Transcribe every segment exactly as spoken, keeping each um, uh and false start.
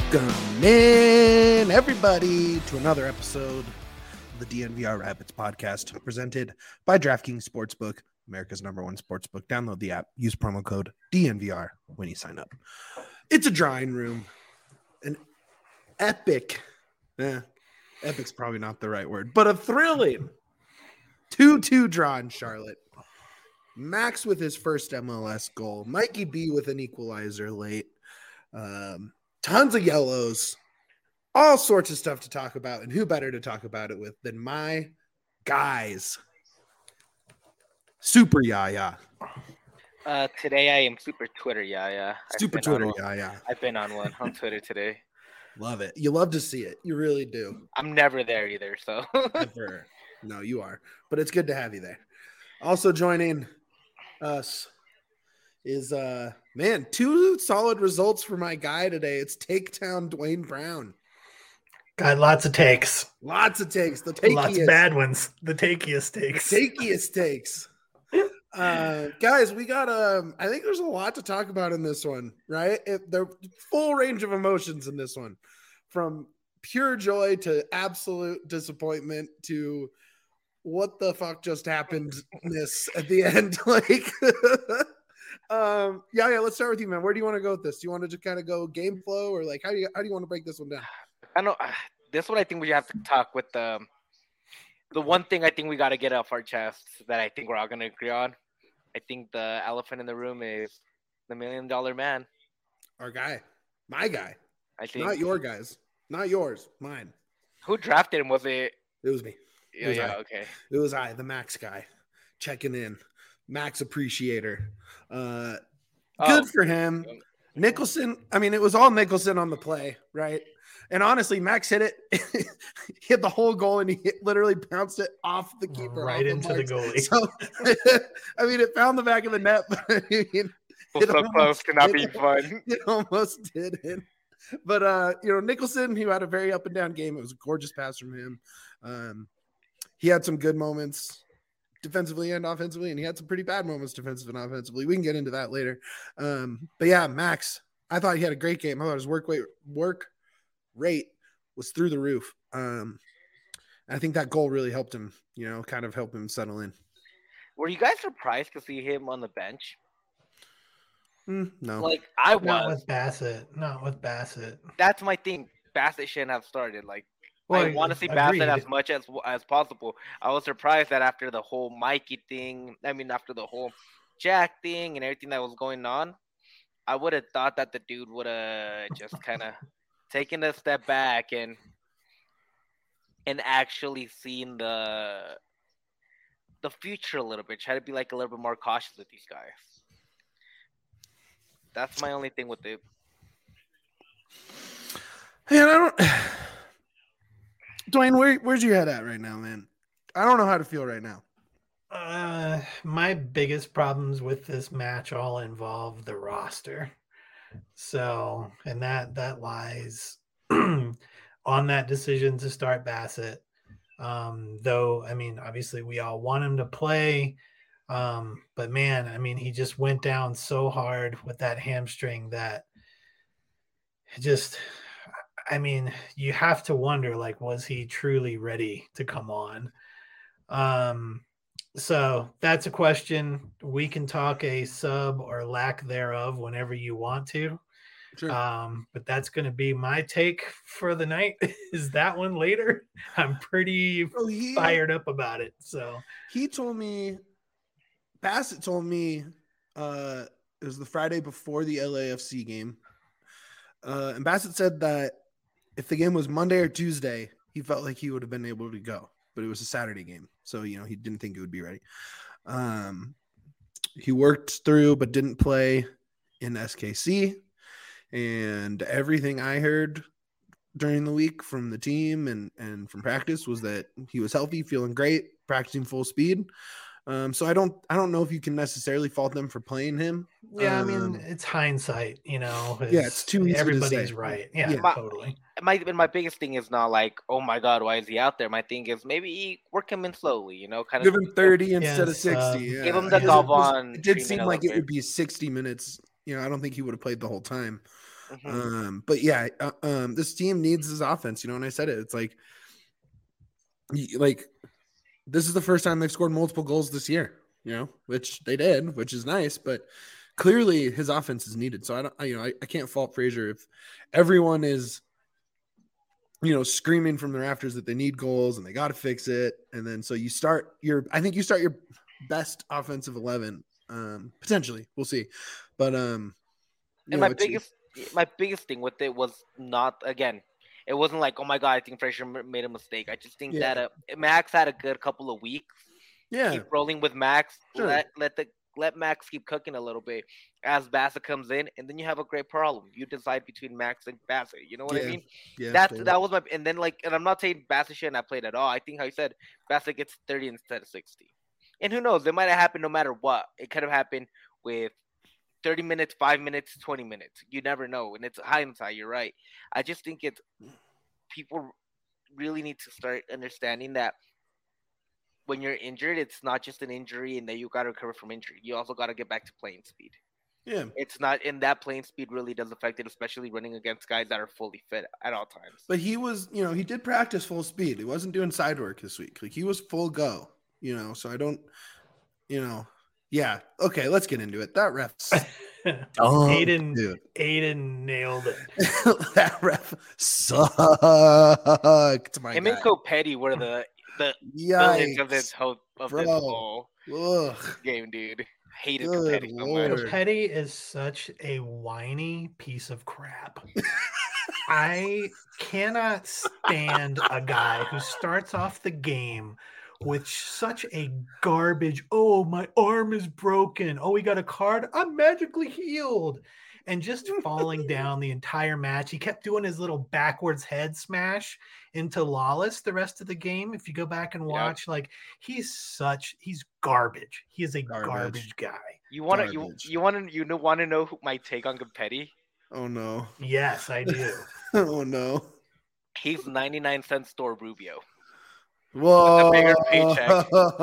Welcome in, everybody, to another episode of the D N V R Rapids podcast, presented by DraftKings Sportsbook, America's number one sportsbook. Download the app, use promo code D N V R when you sign up. It's a drawing room, an epic, eh, epic's probably not the right word, but a thrilling two two draw in Charlotte. Max with his first M L S goal, Mikey B with an equalizer late. Um, Tons of yellows, all sorts of stuff to talk about. And who better to talk about it with than my guys? Super Yaya. Uh, today I am super Twitter Yaya. Super Twitter Yaya. I've been on one on Twitter today. Love it. You love to see it. You really do. I'm never there either, so. Never. No, you are. But it's good to have you there. Also joining us is uh man, two solid results for my guy today. It's Taketown Dwayne Brown. Got lots of takes. Lots of takes. The takiest. Lots of bad ones. The takiest takes. The takiest takes. uh guys, we got um I think there's a lot to talk about in this one, right? It, the full range of emotions in this one, from pure joy to absolute disappointment to what the fuck just happened this at the end. Like Um, yeah, yeah. Let's start with you, man. Where do you want to go with this? Do you want to just kind of go game flow, or like how do you how do you want to break this one down? I know uh, this one. I think we have to talk with the um, the one thing I think we got to get off our chests that I think we're all gonna agree on. I think the elephant in the room is the million dollar man. Our guy, my guy. I think not your guys, not yours, mine. Who drafted him? Was it? It was me. Yeah, was yeah, I. okay. It was I, the Max guy, checking in. Max appreciator. Uh, good oh. for him. Nicholson, I mean, it was all Nicholson on the play, right? And honestly, Max hit it, hit the whole goal, and he hit, literally bounced it off the keeper. Right off into the, the goalie. So, I mean, it found the back of the net, but I mean, well, so close to not being fun. It almost didn't. But, uh, you know, Nicholson, he had a very up and down game. It was a gorgeous pass from him. Um, he had some good moments defensively and offensively, and he had some pretty bad moments defensively and offensively. We can get into that later. Um, but yeah, Max, I thought he had a great game. I thought his work rate, work rate was through the roof. Um, I think that goal really helped him, you know, kind of help him settle in. Were you guys surprised to see him on the bench? Mm, no. Like, I was. Not with Bassett. Not with Bassett. That's my thing. Bassett shouldn't have started. Like, Well, I want to see agreed. Bassett as much as as possible. I was surprised that after the whole Mikey thing, I mean, after the whole Jack thing and everything that was going on, I would have thought that the dude would have just kind of taken a step back and and actually seen the the future a little bit. Try to be like a little bit more cautious with these guys. That's my only thing with it. Man, I don't. Dwayne, where, where's your head at right now, man? I don't know how to feel right now. Uh, my biggest problems with this match all involve the roster. So, and that that lies on that decision to start Bassett. Um, though, I mean, obviously we all want him to play. Um, but man, I mean, he just went down so hard with that hamstring that it just... I mean, you have to wonder, like, was he truly ready to come on? Um, so that's a question. We can talk a sub or lack thereof whenever you want to. Sure. Um, but that's going to be my take for the night. Is that one later? I'm pretty oh, he, fired up about it. So he told me, Bassett told me, uh, it was the Friday before the L A F C game. Uh, and Bassett said that if the game was Monday or Tuesday, he felt like he would have been able to go, but it was a Saturday game. So, you know, he didn't think it would be ready. Um, he worked through, but didn't play in S K C. And everything I heard during the week from the team and, and from practice was that he was healthy, feeling great, practicing full speed. Um, so I don't, I don't know if you can necessarily fault them for playing him. Yeah, um, I mean, it's hindsight, you know. It's, yeah, it's too easy everybody's to say. right. Yeah, Yeah. My, totally. My my biggest thing is not like, oh my god, why is he out there? My thing is maybe work him in slowly, you know, kind Give of him thirty instead Yes, of sixty. um, yeah. give him the Because it was- Galvan It did treatment seem a like little it would bit. be sixty minutes. You know, I don't think he would have played the whole time. Mhm. Um, but yeah, uh, um, this team needs this offense, you know, and I said it, it's like, y- like this is the first time they've scored multiple goals this year, you know, which they did, which is nice, but clearly his offense is needed. So I don't, I, you know, I, I can't fault Frazier if everyone is, you know, screaming from the rafters that they need goals and they got to fix it. And then so you start your, I think you start your best offensive eleven, um, potentially. We'll see. But, um, you And know, my it's, biggest my biggest thing with it was not again. It wasn't like, oh my god, I think Frazier m- made a mistake. I just think Yeah. that uh, Max had a good couple of weeks. yeah, Keep rolling with Max. Sure. Let let the let Max keep cooking a little bit as Bassett comes in, and then you have a great problem. You decide between Max and Bassett. You know what I Yeah. mean? yeah. That's totally. that was my and then like and I'm not saying Bassett shouldn't have played at all. I think how you said Bassett gets thirty instead of sixty. And who knows? It might have happened no matter what. It could have happened with thirty minutes, five minutes, twenty minutes. You never know. And it's hindsight, you're right. I just think it's people really need to start understanding that when you're injured, it's not just an injury and that you got to recover from injury. You also got to get back to playing speed. Yeah. It's not, and that playing speed really does affect it, especially running against guys that are fully fit at all times. But he was, you know, he did practice full speed. He wasn't doing side work this week. Like he was full go, you know, so I don't, you know, yeah. Okay, let's get into it. That ref, oh, Aiden, dude. Aiden nailed it. That ref sucked. My Him guy. and Copetti were the the villains of this Yikes. whole of Bro. this whole Ugh. game, dude. Hated Good Copetti so Lord. much. Petty is such a whiny piece of crap. I cannot stand a guy who starts off the game with such a garbage, oh, my arm is broken. Oh, he got a card. I'm magically healed. And just falling down the entire match. He kept doing his little backwards head smash into Lawless the rest of the game. If you go back and watch, yep. like he's such, he's garbage. He is a garbage, Garbage. guy. You want to, you, you want to, you know, want to know who my take on Copetti? Oh no. Yes, I do. Oh no. He's ninety-nine cent store Rubio. Whoa. With a bigger paycheck.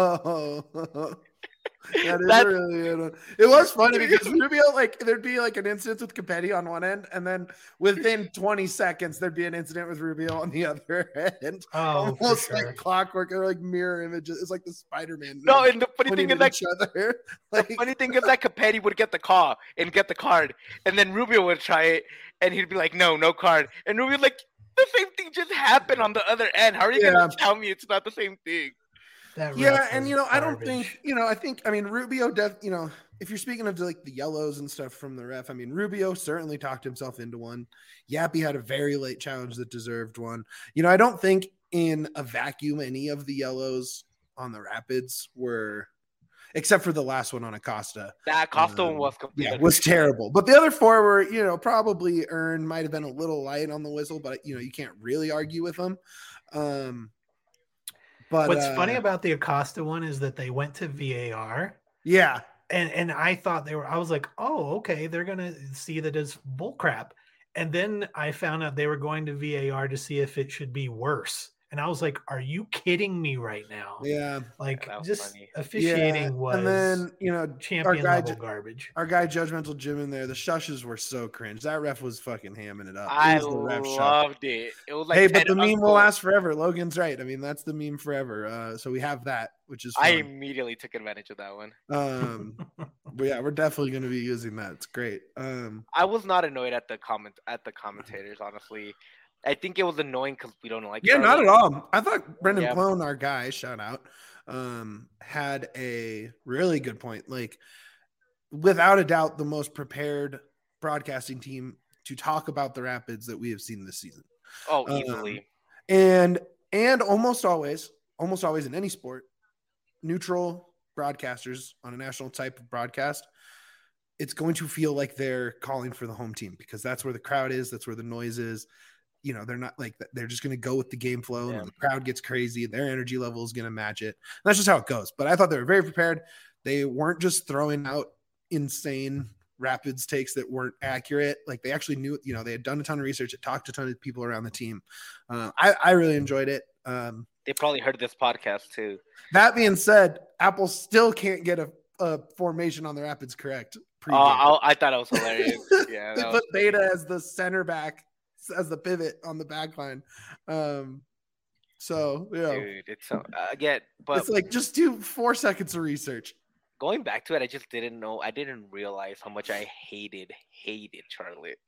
That is That's... really good. It was funny because Rubio, like, there'd be like an incident with Copetti on one end, and then within twenty seconds, there'd be an incident with Rubio on the other end. Oh, almost sure. like clockwork or like mirror images. It's like the Spider-Man. No, and the funny thing is that other. Like, the funny thing is that Copetti would get the call and get the card, and then Rubio would try it, and he'd be like, "No, no card," and Rubio like, "The same thing just happened on the other end. How are you yeah. gonna tell me it's not the same thing?" Yeah, and you know, garbage. I don't think you know. I think I mean Rubio. Def, you know, if you're speaking of like the yellows and stuff from the ref, I mean Rubio certainly talked himself into one. Yappy had a very late challenge that deserved one. You know, I don't think in a vacuum any of the yellows on the Rapids were, except for the last one on Acosta. That Acosta um, one was completely yeah, was terrible. But the other four were, you know, probably earned. Might have been a little light on the whistle, but you know, you can't really argue with them. Um, But what's uh, funny about the Acosta one is that they went to V A R. Yeah. And and I thought they were, I was like, oh, okay, they're going to see that as bull crap. And then I found out they were going to V A R to see if it should be worse. And I was like, are you kidding me right now? Yeah. Like yeah, just funny. officiating yeah. was and then, you know, champion guy, level garbage. Our guy Judgmental Jim in there, the shushes were so cringe. That ref was fucking hamming it up. It I was the ref loved shush. it. It was like hey, but the meme will last forever. Logan's right. I mean, that's the meme forever. Uh, so we have that, which is fun. I immediately took advantage of that one. Um, but yeah, we're definitely going to be using that. It's great. Um, I was not annoyed at the comment at the commentators, honestly. I think it was annoying because we don't like. Yeah, Charlie. Not at all. I thought Brendan yeah. Plone, our guy, shout out, um, had a really good point. Like, without a doubt, the most prepared broadcasting team to talk about the Rapids that we have seen this season. Oh, easily. Um, and and almost always, almost always in any sport, neutral broadcasters on a national type of broadcast, it's going to feel like they're calling for the home team because that's where the crowd is. That's where the noise is. You know, they're not like they're just going to go with the game flow. Yeah. And the crowd gets crazy. Their energy level is going to match it. And that's just how it goes. But I thought they were very prepared. They weren't just throwing out insane Rapids takes that weren't accurate. Like they actually knew, you know, they had done a ton of research. It talked to a ton of people around the team. Uh, I, I really enjoyed it. Um, they probably heard this podcast too. That being said, Apple still can't get a, a formation on the Rapids correct. Pre-game. Oh, I, I thought it was hilarious. Yeah, they that put was Beta as the center back, as the pivot on the back line. Um, so yeah, dude, it's so uh, again, but it's like just do four seconds of research. going back to it, I just didn't know. I didn't realize how much I hated hated Charlotte.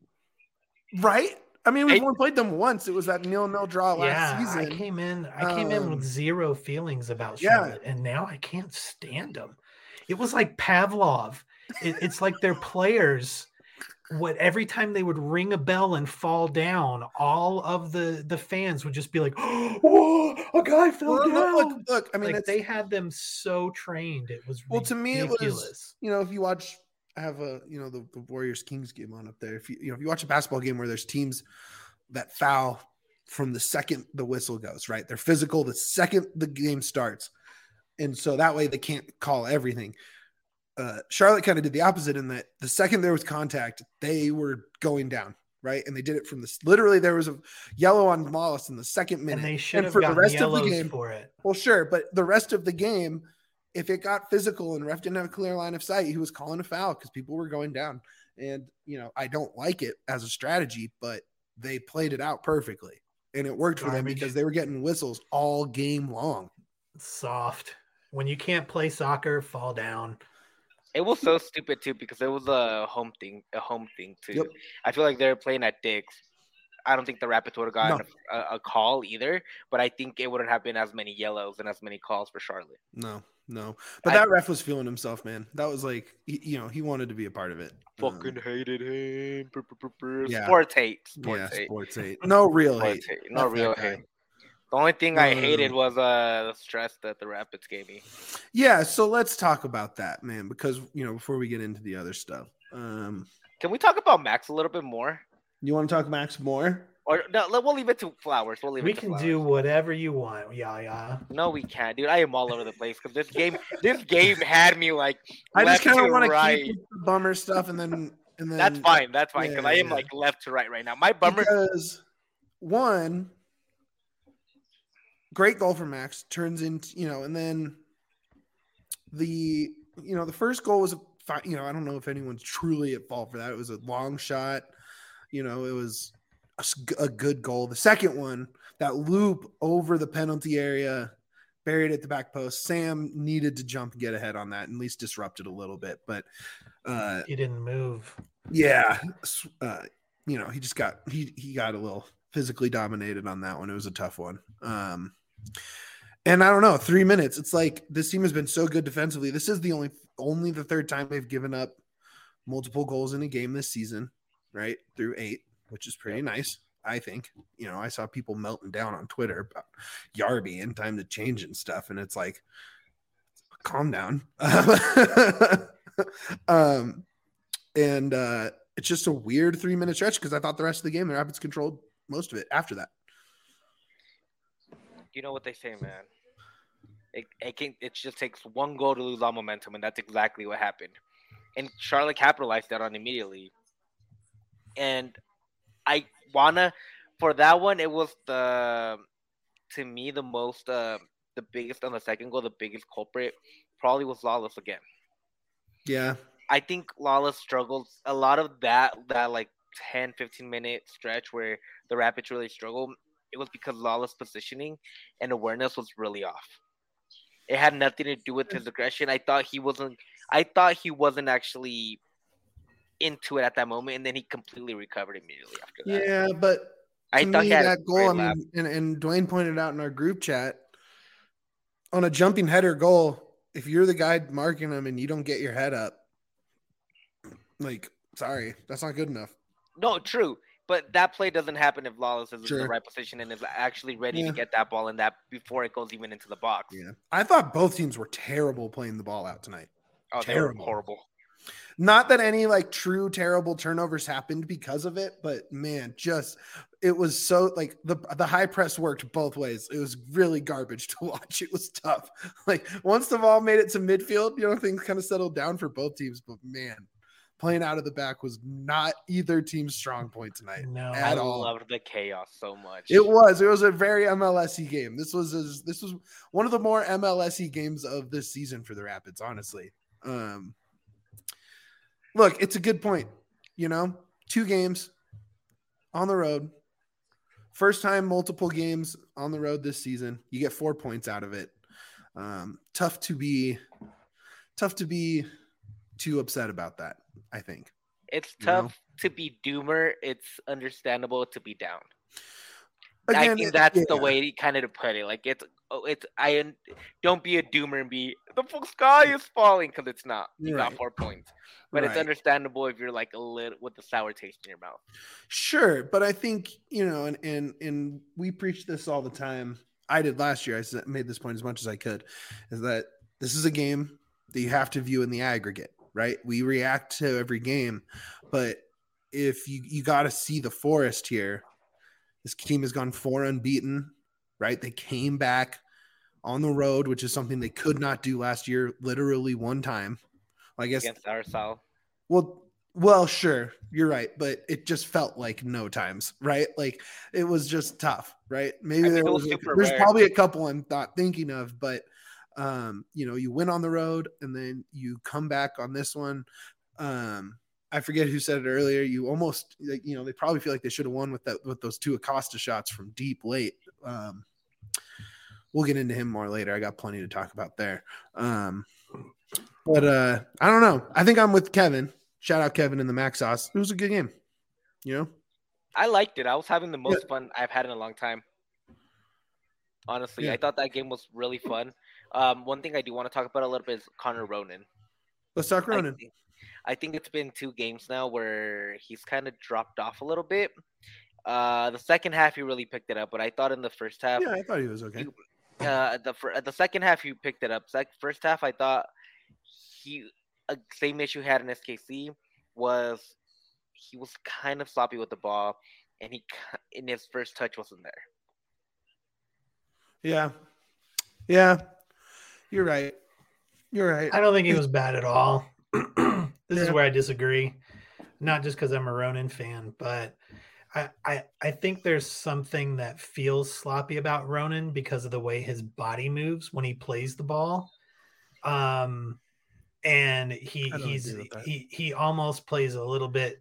Right? I mean, we've I- only played them once. It was that nil-nil draw last Yeah, season. I came in. I came in Um, with zero feelings about yeah. Charlotte, and now I can't stand them. It was like Pavlov. It, it's like their players. What every time they would ring a bell and fall down, all of the the fans would just be like, "Oh, a guy fell Well, down!" look, look, I mean, like it's, they had them so trained. It was well, to me, it ridiculous. was, you know, if you watch, I have a, you know, the, the Warriors Kings game on up there. If you, you know, if you watch a basketball game where there's teams that foul from the second the whistle goes, right? They're physical the second the game starts. And so that way they can't call everything. Uh, Charlotte kind of did the opposite in that the second there was contact, they were going down, right? And they did it from this. Literally, there was a yellow on Lawless in the second minute. And they should have for gotten the rest of the yellows game, for it. well, sure, but the rest of the game, if it got physical and ref didn't have a clear line of sight, he was calling a foul because people were going down. And you know, I don't like it as a strategy, but they played it out perfectly, and it worked for them Garbage. because they were getting whistles all game long. Soft. When you can't play soccer, fall down. It was so stupid too because it was a home thing, a home thing too. Yep. I feel like they were playing at Dick's. I don't think the Rapids would have gotten No. a, a call either, but I think it wouldn't have been as many yellows and as many calls for Charlotte. No, no, but I- that ref was feeling himself, man. That was like, he, you know, he wanted to be a part of it. Fucking Um, hated him. Brr, brr, brr, brr. Yeah. Sports hate. Sports yeah, hate. sports hate. No real hate. Sports hate. No Fuck that real guy. hate. The only thing I No, no, hated no. was uh, the stress that the Rapids gave me. Yeah, so let's talk about that, man, because you know, before we get into the other stuff, um, Can we talk about Max a little bit more? you want to talk Max more? Or no, let- we'll leave it to Flowers. We'll leave We it to can Flowers. do whatever you want. Yeah, yeah. No, we can't, dude. I am all over the place because this game, this game had me like. I just left kind of to want to right. keep the bummer stuff, and then and then That's fine. That's fine because Yeah, I am yeah. like left to right right now. My bummer. because one great goal for Max turns into, you know, and then the, you know, the first goal was a fi- you know, I don't know if anyone's truly at fault for that. It was a long shot, you know, it was a, s- a good goal. The second one, that loop over the penalty area, buried at the back post. Sam needed to jump and get ahead on that and at least disrupt it a little bit, but uh He didn't move. yeah, uh, you know, he just got he he got a little physically dominated on that one. It was a tough one. Um, and I don't know, three minutes. It's like this team has been so good defensively. This is the only only the third time they've given up multiple goals in a game this season, right? Through eight, which is pretty nice, I think. You know, I saw people melting down on Twitter about Yarby and time to change and stuff, and it's like, calm down. um, and uh, it's just a weird three minute stretch because I thought the rest of the game the Rapids controlled most of it after that. You know what they say, man. It it, can, it just takes one goal to lose all momentum, and that's exactly what happened. And Charlotte capitalized that on immediately. And I wanna for that one, it was the to me the most uh, the biggest on the second goal, the biggest culprit probably was Lawless again. Yeah. I think Lawless struggled a lot of that that like ten, fifteen minute stretch where the Rapids really struggled. It was because Lawless positioning and awareness was really off. It had nothing to do with his aggression. I thought he wasn't. I thought he wasn't actually into it at that moment, and then he completely recovered immediately after that. Yeah, but I to thought me, he had a that goal, great I lap. mean, and, and Dwayne pointed out in our group chat, on a jumping header goal, if you're the guy marking him and you don't get your head up, like, sorry, that's not good enough. No, true. But that play doesn't happen if Lawless is in Sure. the right position and is actually ready Yeah. to get that ball in that before it goes even into the box. Yeah. I thought both teams were terrible playing the ball out tonight. Oh, they were Terrible. horrible. Not that any like true terrible turnovers happened because of it, but man, just it was so like the the high press worked both ways. It was really garbage to watch. It was tough. Like once the ball made it to midfield, you know, things kind of settled down for both teams. But man, playing out of the back was not either team's strong point tonight. No. At I all. loved the chaos so much. It was. It was a very M L S-y game. This was a, this was one of the more M L S-y games of this season for the Rapids, honestly. Um, look, it's a good point. You know, two games on the road. First time multiple games on the road this season. You get four points out of it. Um, tough to be tough to be too upset about that, I think. It's You tough know? to be doomer. It's understandable to be down. Again, I think it- that's yeah. the way to kind of to put it. Like it's, oh, it's. I un- don't be a doomer and be the full sky is falling because it's not. You Right. got four points, but it's Right. understandable if you're like a little with a sour taste in your mouth. Sure, but I think, you know, and and and we preach this all the time. I did last year. I said- made this point as much as I could, is that this is a game that you have to view in the aggregate, right? We react to every game, but if you you got to see the forest here. This team has gone four unbeaten, right? They came back on the road, which is something they could not do last year, literally one time. I guess. Against Arsal. Well, well, sure, you're right, but it just felt like no times, right? Like it was just tough, right? Maybe I mean, there it was was, super there's rare. probably a couple I'm not thinking of, but um, you know, you win on the road and then you come back on this one. Um, I forget who said it earlier. You almost, like, you know, they probably feel like they should have won with that with those two Acosta shots from deep late. Um, we'll get into him more later. I got plenty to talk about there. Um, but uh, I don't know. I think I'm with Kevin. Shout out Kevin in the Mac Sauce. It was a good game. You know, I liked it. I was having the most Yeah. fun I've had in a long time. Honestly, Yeah. I thought that game was really fun. Um, one thing I do want to talk about a little bit is Connor Ronan. let's talk I Ronan. think, I think it's been two games now where he's kind of dropped off a little bit. Uh, the second half he really picked it up, but I thought in the first half, Yeah, I thought he was okay. you- uh, the fir- the second half he picked it up. Sec- first half I thought he uh, same issue he had in S K C was he was kind of sloppy with the ball, and he ki- in his first touch wasn't there. Yeah, yeah, you're right. You're right. I don't think he was bad at all. This is Yeah. where I disagree. Not just because I'm a Ronan fan, but I, I I think there's something that feels sloppy about Ronan because of the way his body moves when he plays the ball. Um, and he I don't he's agree with that. he he almost plays a little bit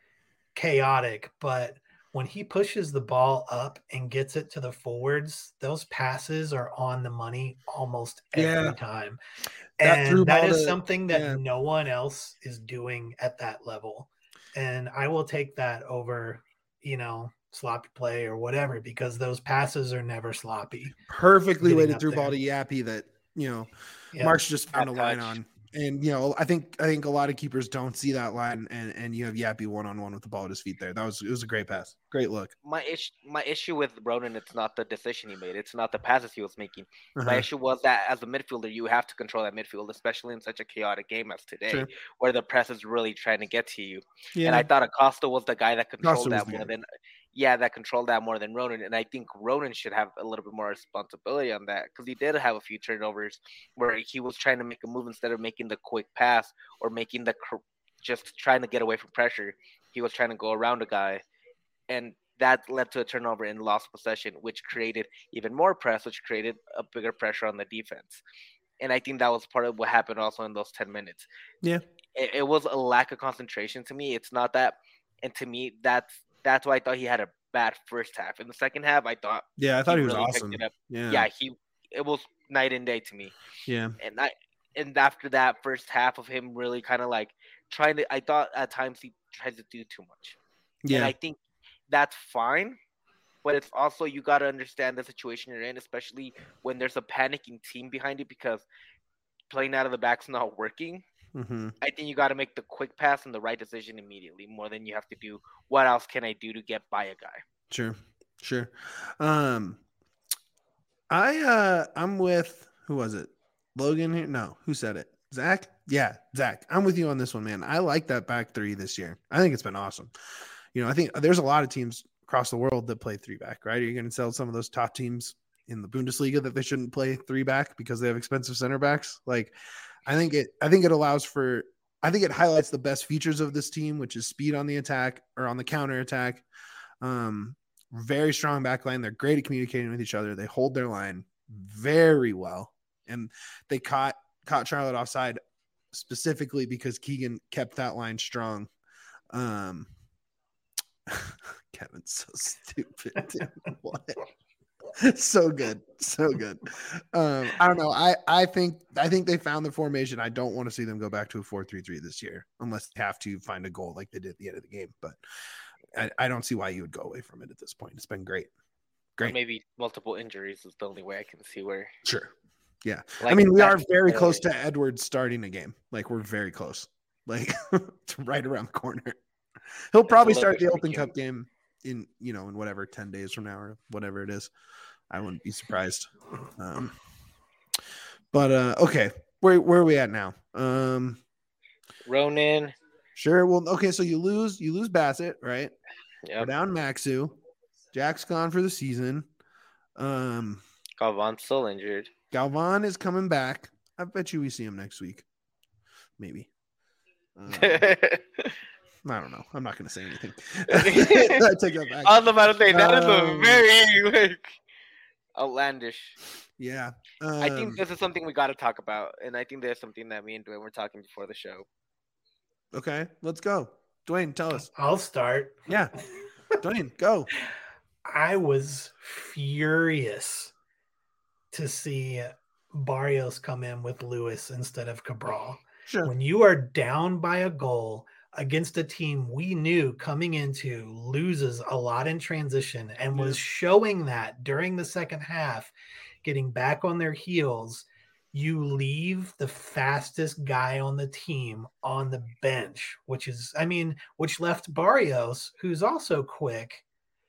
chaotic, but when he pushes the ball up and gets it to the forwards, those passes are on the money almost every Yeah. time. That through And that ball is to- something that yeah. no one else is doing at that level. And I will take that over, you know, sloppy play or whatever, because those passes are never sloppy. Perfectly Getting weighted up through ball there. to Yappy that, you know, Yeah. Mark's just found That a line touch. on. And, you know, I think I think a lot of keepers don't see that line, and, and you have Yappy one-on-one with the ball at his feet there. That was, it was a great pass. Great look. My issue, my issue with Ronan, it's not the decision he made. It's not the passes he was making. My Uh-huh. issue was that as a midfielder, you have to control that midfield, especially in such a chaotic game as today, Sure. where the press is really trying to get to you. Yeah. And I thought Acosta was the guy that controlled Acosta was that the more guy. than, yeah, that controlled that more than Ronan. And I think Ronan should have a little bit more responsibility on that, because he did have a few turnovers where he was trying to make a move instead of making the quick pass or making the cr- just trying to get away from pressure. He was trying to go around a guy, and that led to a turnover and lost possession, which created even more press, which created a bigger pressure on the defense. And I think that was part of what happened also in those ten minutes. Yeah. It, it was a lack of concentration to me. It's not that, and to me, that's that's why I thought he had a bad first half. In the second half, I thought, Yeah, I thought he, was really picked awesome. it up. Yeah. yeah, he it was night and day to me. Yeah. And I and after that first half of him really kind of like trying to, I thought at times he tried to do too much. And Yeah. I think that's fine, but it's also, you got to understand the situation you're in, especially when there's a panicking team behind it, because playing out of the back's not working. Mm-hmm. I think you got to make the quick pass and the right decision immediately, more than you have to do what else can I do to get by a guy. Sure. Sure. Um, I, uh, I'm with, who was it? Logan here? No, who said it? Zach? Yeah, Zach. I'm with you on this one, man. I like that back three this year. I think it's been awesome. You know, I think there's a lot of teams across the world that play three back, right? Are you going to tell some of those top teams in the Bundesliga that they shouldn't play three back because they have expensive center backs? Like, I think it, I think it allows for, I think it highlights the best features of this team, which is speed on the attack or on the counter attack. Um, very strong back line. They're great at communicating with each other. They hold their line very well. And they caught, caught Charlotte offside specifically because Keegan kept that line strong. Um, Kevin's so stupid. Dude. What? So good, so good. Um, I don't know. I I think I think they found the formation. I don't want to see them go back to a four three three this year, unless they have to find a goal like they did at the end of the game. But I, I don't see why you would go away from it at this point. It's been great, great. Or maybe multiple injuries is the only way I can see where. Sure. Yeah. Like I mean, we that- are very close to Edwards starting a game. Like we're very close. Like it's right around the corner. He'll probably little start bit the Open freaking- Cup game in, you know, in whatever, ten days from now or whatever it is. I wouldn't be surprised. Um, but uh, okay, where where are we at now? Um, Ronan. sure. Well, okay. So you lose, you lose Bassett, right? We're Yep. down Maxu. Jack's gone for the season. Um, Galvan's still injured. Galvan is coming back. I bet you we see him next week. Maybe. Um, I don't know. I'm not going to say anything. I take that back. I was about to say that is Um, a very like outlandish. Yeah. I think Um, this is something we got to talk about, and I think there's something that me and Dwayne were talking before the show. Okay, let's go. Dwayne, tell us. I'll start. Yeah. Dwayne, go. I was furious to see Barrios come in with Lewis instead of Cabral. Sure. When you are down by a goal against a team we knew coming into loses a lot in transition and was Yeah. showing that during the second half, getting back on their heels, you leave the fastest guy on the team on the bench, which is, I mean, which left Barrios, who's also quick,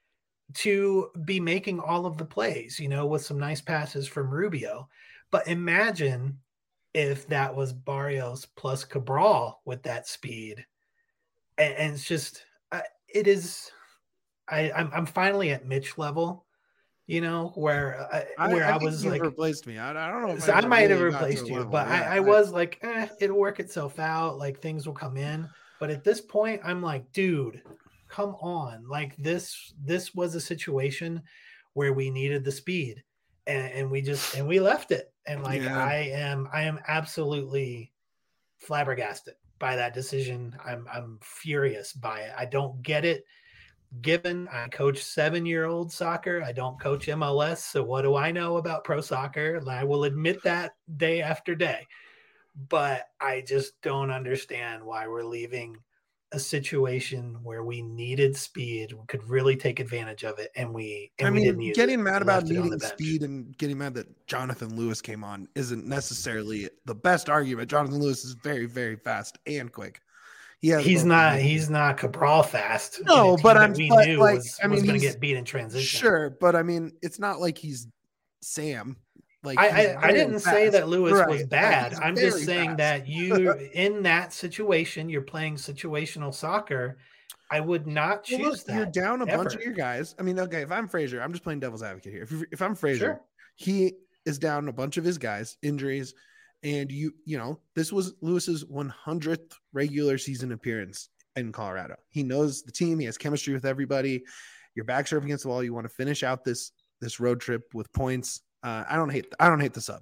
to be making all of the plays, you know, with some nice passes from Rubio. But imagine if that was Barrios plus Cabral with that speed. And, and it's just, uh, it is, I, I'm, I'm finally at Mitch level, you know, where I, I, where I, I, think was you've like, replaced me. I, I don't know. If so I ever might have really got to replaced a you, level. but Yeah, I, I was like, eh, it'll work itself out. Like things will come in. But at this point, I'm like, dude, come on. Like this, this was a situation where we needed the speed and, and we just, and we left it. And like, Yeah. I am, I am absolutely flabbergasted by that decision. I'm, I'm furious by it. I don't get it. Given I coach seven-year-old soccer, I don't coach M L S. So what do I know about pro soccer? And I will admit that day after day. But I just don't understand why we're leaving a situation where we needed speed, we could really take advantage of it, and we. And I we didn't mean, use getting it. mad We about left it on needing the bench. speed and getting mad that Jonathan Lewis came on isn't necessarily the best argument. Jonathan Lewis is very, very fast and quick. He has He's both not. of them. He's not Cabral fast. No, in a team but that I'm- we but, knew like, was, I mean, was going to he's- get beat in transition. Sure, but I mean, it's not like he's Sam. Like I, he's I, I very didn't say fast. that Lewis Right, was right, bad. he's I'm very just saying fast. that you, in that situation, you're playing situational soccer. I would not Well, choose look, you're that. down a bunch of ever. your guys. I mean, okay, if I'm Frazier, I'm just playing devil's advocate here. If, you- if I'm Frazier, Sure. he is down a bunch of his guys, injuries, and you, you know, this was Lewis's one hundredth regular season appearance in Colorado. He knows the team. He has chemistry with everybody. Your backs are up against the wall. You want to finish out this this road trip with points. Uh, I don't hate. I don't hate the sub.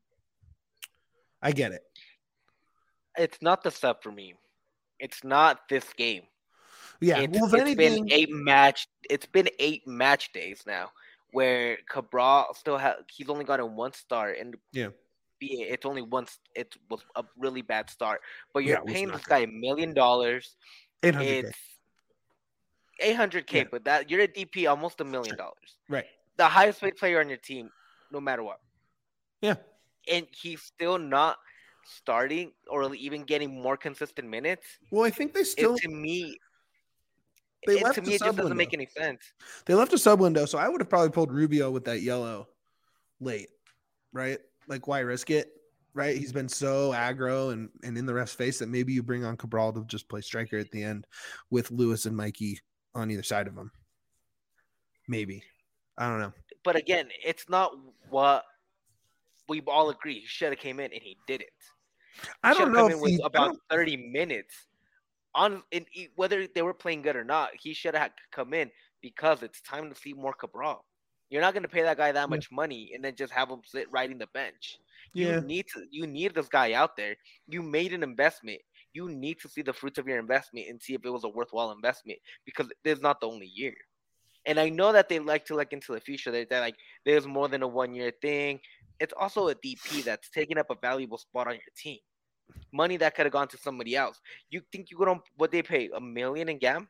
I get it. It's not the sub for me. It's not this game. Yeah. It's, well, if it's anything, been eight match. It's been eight match days now, where Cabral still has. He's only gotten one start, and yeah, be it, it's only once. It was a really bad start, but you're Yeah, it was paying not this guy a million dollars. eight hundred K. It's eight hundred k, Yeah. but that you're a D P, almost a million dollars. Right. The highest paid player on your team, no matter what. Yeah. And he's still not starting or even getting more consistent minutes. Well, I think they still It, to me, they it, left to the me, it sub just doesn't window. make any sense. They left a sub window, so I would have probably pulled Rubio with that yellow late, right? Like, why risk it, right? He's been so aggro and, and in the ref's face that maybe you bring on Cabral to just play striker at the end with Lewis and Mikey on either side of him. Maybe. I don't know. But again, it's not what we all agree. He should have came in, and he didn't. I don't Should've know come if in with he, I about don't- thirty minutes on in whether they were playing good or not. He should have come in because it's time to see more Cabral. You're not going to pay that guy that much yeah. money and then just have him sit riding the bench. Yeah. You need to. You need this guy out there. You made an investment. You need to see the fruits of your investment and see if it was a worthwhile investment because this is not the only year. And I know that they like to look into the future. That they're like there's more than a one year thing. It's also a D P that's taking up a valuable spot on your team. Money that could have gone to somebody else. You think you could what they pay a million in Gam?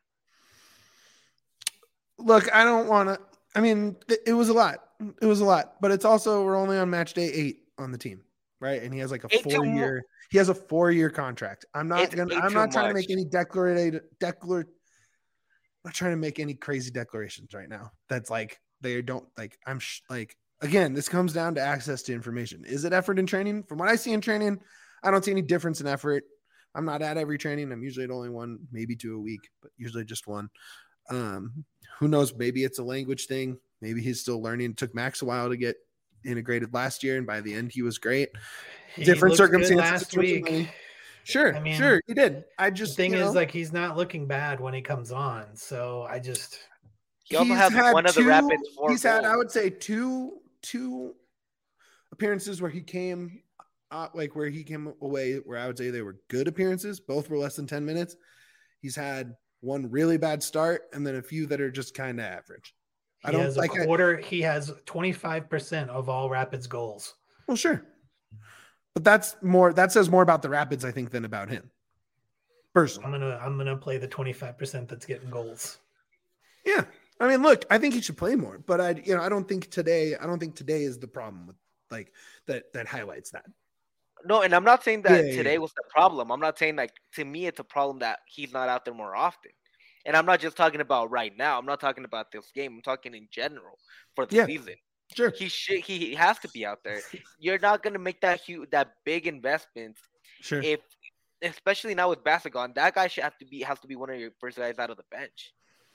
Look, I don't want to. I mean, it was a lot. It was a lot, but it's also we're only on match day eight on the team, right? And he has like a four year. He has a four year contract. I'm not gonna. I'm not trying to make any declarated declar. I'm not trying to make any crazy declarations right now. That's like they don't like. I'm sh- like again. This comes down to access to information. Is it effort in training? From what I see in training, I don't see any difference in effort. I'm not at every training. I'm usually at only one, maybe two a week, but usually just one. Um, who knows? Maybe it's a language thing. Maybe he's still learning. It took Max a while to get integrated last year, and by the end, he was great. He Different circumstances last week. Sure, I mean, sure, he did. I just the thing you is know, like he's not looking bad when he comes on. So I just he also has one two, of the Rapids. Four he's goals. had, I would say, two two appearances where he came, uh, like where he came away, where I would say they were good appearances. Both were less than ten minutes. He's had one really bad start, and then a few that are just kind of average. He I don't has a like quarter. I, he has twenty-five percent of all Rapids goals. Well, sure. But that's more, that says more about the Rapids, I think, than about him. Personally. I'm going to, I'm going to play the twenty-five percent that's getting goals. Yeah. I mean, look, I think he should play more, but I, you know, I don't think today, I don't think today is the problem with like that, that highlights that. No. And I'm not saying that yeah, today yeah. was the problem. I'm not saying like, to me, it's a problem that he's not out there more often. And I'm not just talking about right now. I'm not talking about this game. I'm talking in general for the yeah, season. Sure. He should. He has to be out there. You're not going to make that huge, that big investment. Sure. If, especially now with Basigon, that guy should have to be has to be one of your first guys out of the bench.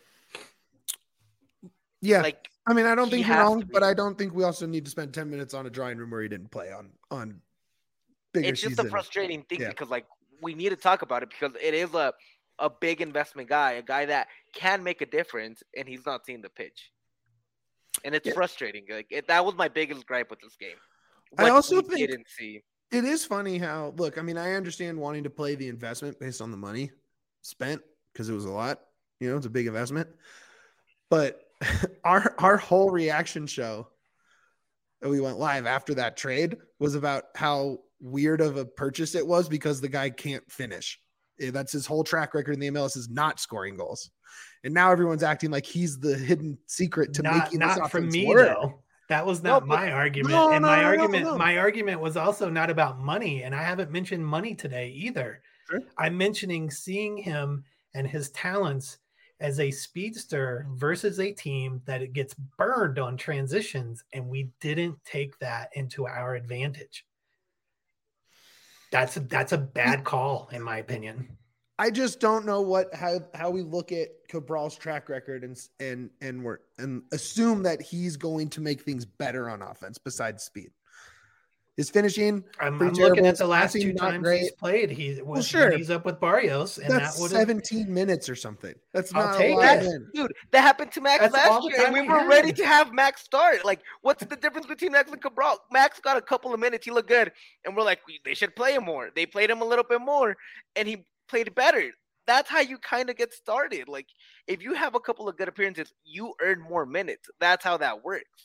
Yeah. Like, I mean, I don't think you're wrong, but I don't think we also need to spend ten minutes on a drawing room where he didn't play on on. Bigger it's just season. a frustrating thing yeah. because like we need to talk about it because it is a. a big investment guy, a guy that can make a difference, and he's not seeing the pitch. And it's yeah. frustrating. Like it, that was my biggest gripe with this game. What I also think didn't see. It is funny how, look, I mean, I understand wanting to play the investment based on the money spent because it was a lot, you know, it's a big investment. But our our whole reaction show that we went live after that trade was about how weird of a purchase it was because the guy can't finish. That's his whole track record in the M L S is not scoring goals. And now everyone's acting like he's the hidden secret to not, making this not from me work. Though. That was not no, my argument. No, and no, my no, argument, no, no. my argument was also not about money. And I haven't mentioned money today either. Sure. I'm mentioning seeing him and his talents as a speedster versus a team that it gets burned on transitions. And we didn't take that into our advantage. That's a, that's a bad call, in my opinion. I just don't know what how how we look at Cabral's track record and and and we're and assume that he's going to make things better on offense besides speed. His finishing. I'm, I'm looking at the last two times great. he's played. He was well, sure. he's up with Barrios, and that's that would seventeen minutes or something. That's I'll not take a lot that, in. dude. That happened to Max that's last year, and we, we were had. ready to have Max start. Like, what's the difference between Max and Cabral? Max got a couple of minutes. He looked good, and we're like, they should play him more. They played him a little bit more, and he played better. That's how you kind of get started. Like, if you have a couple of good appearances, you earn more minutes. That's how that works.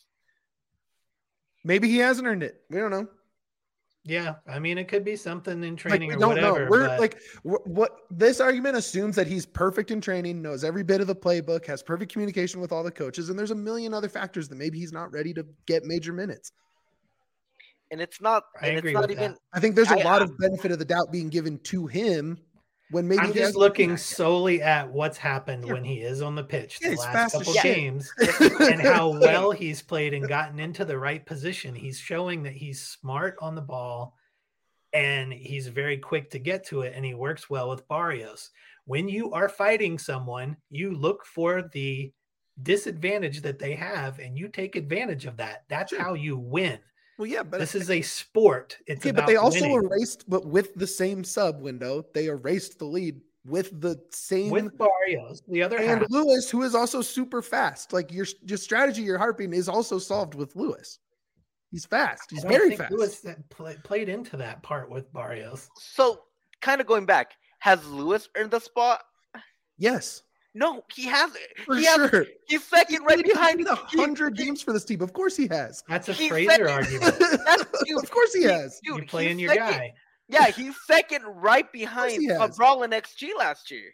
Maybe he hasn't earned it. We don't know. Yeah, I mean, it could be something in training like, or whatever. Know. We're but... like, what this argument assumes that he's perfect in training, knows every bit of the playbook, has perfect communication with all the coaches, and there's a million other factors that maybe he's not ready to get major minutes. And it's not. I and agree it's not with even. that. I think there's a I, lot I, of benefit of the doubt being given to him. When maybe I'm just looking solely at what's happened yeah. when he is on the pitch yeah, the last couple yeah. games and how well he's played and gotten into the right position. He's showing that he's smart on the ball and he's very quick to get to it, and he works well with Barrios. When you are fighting someone, you look for the disadvantage that they have and you take advantage of that. That's sure. how you win. Well, yeah, but this is a sport. It's okay, about but they also winning. erased, but with the same sub window, they erased the lead with the same with Barrios, the other and half. Lewis, who is also super fast. Like your your strategy you're harping is also solved with Lewis. He's fast. He's I don't very think fast. Lewis that play, played into that part with Barrios. So, kind of going back, has Lewis earned the spot? Yes. No, he hasn't. For he sure. Has, he's second right He's behind. a hundred games for this team. Of course he has. That's a He's Fraser second. argument. dude, of course he he- has. Dude, You're playing he's your second. guy. Yeah, he's second right behind he has. Cabral in X G last year.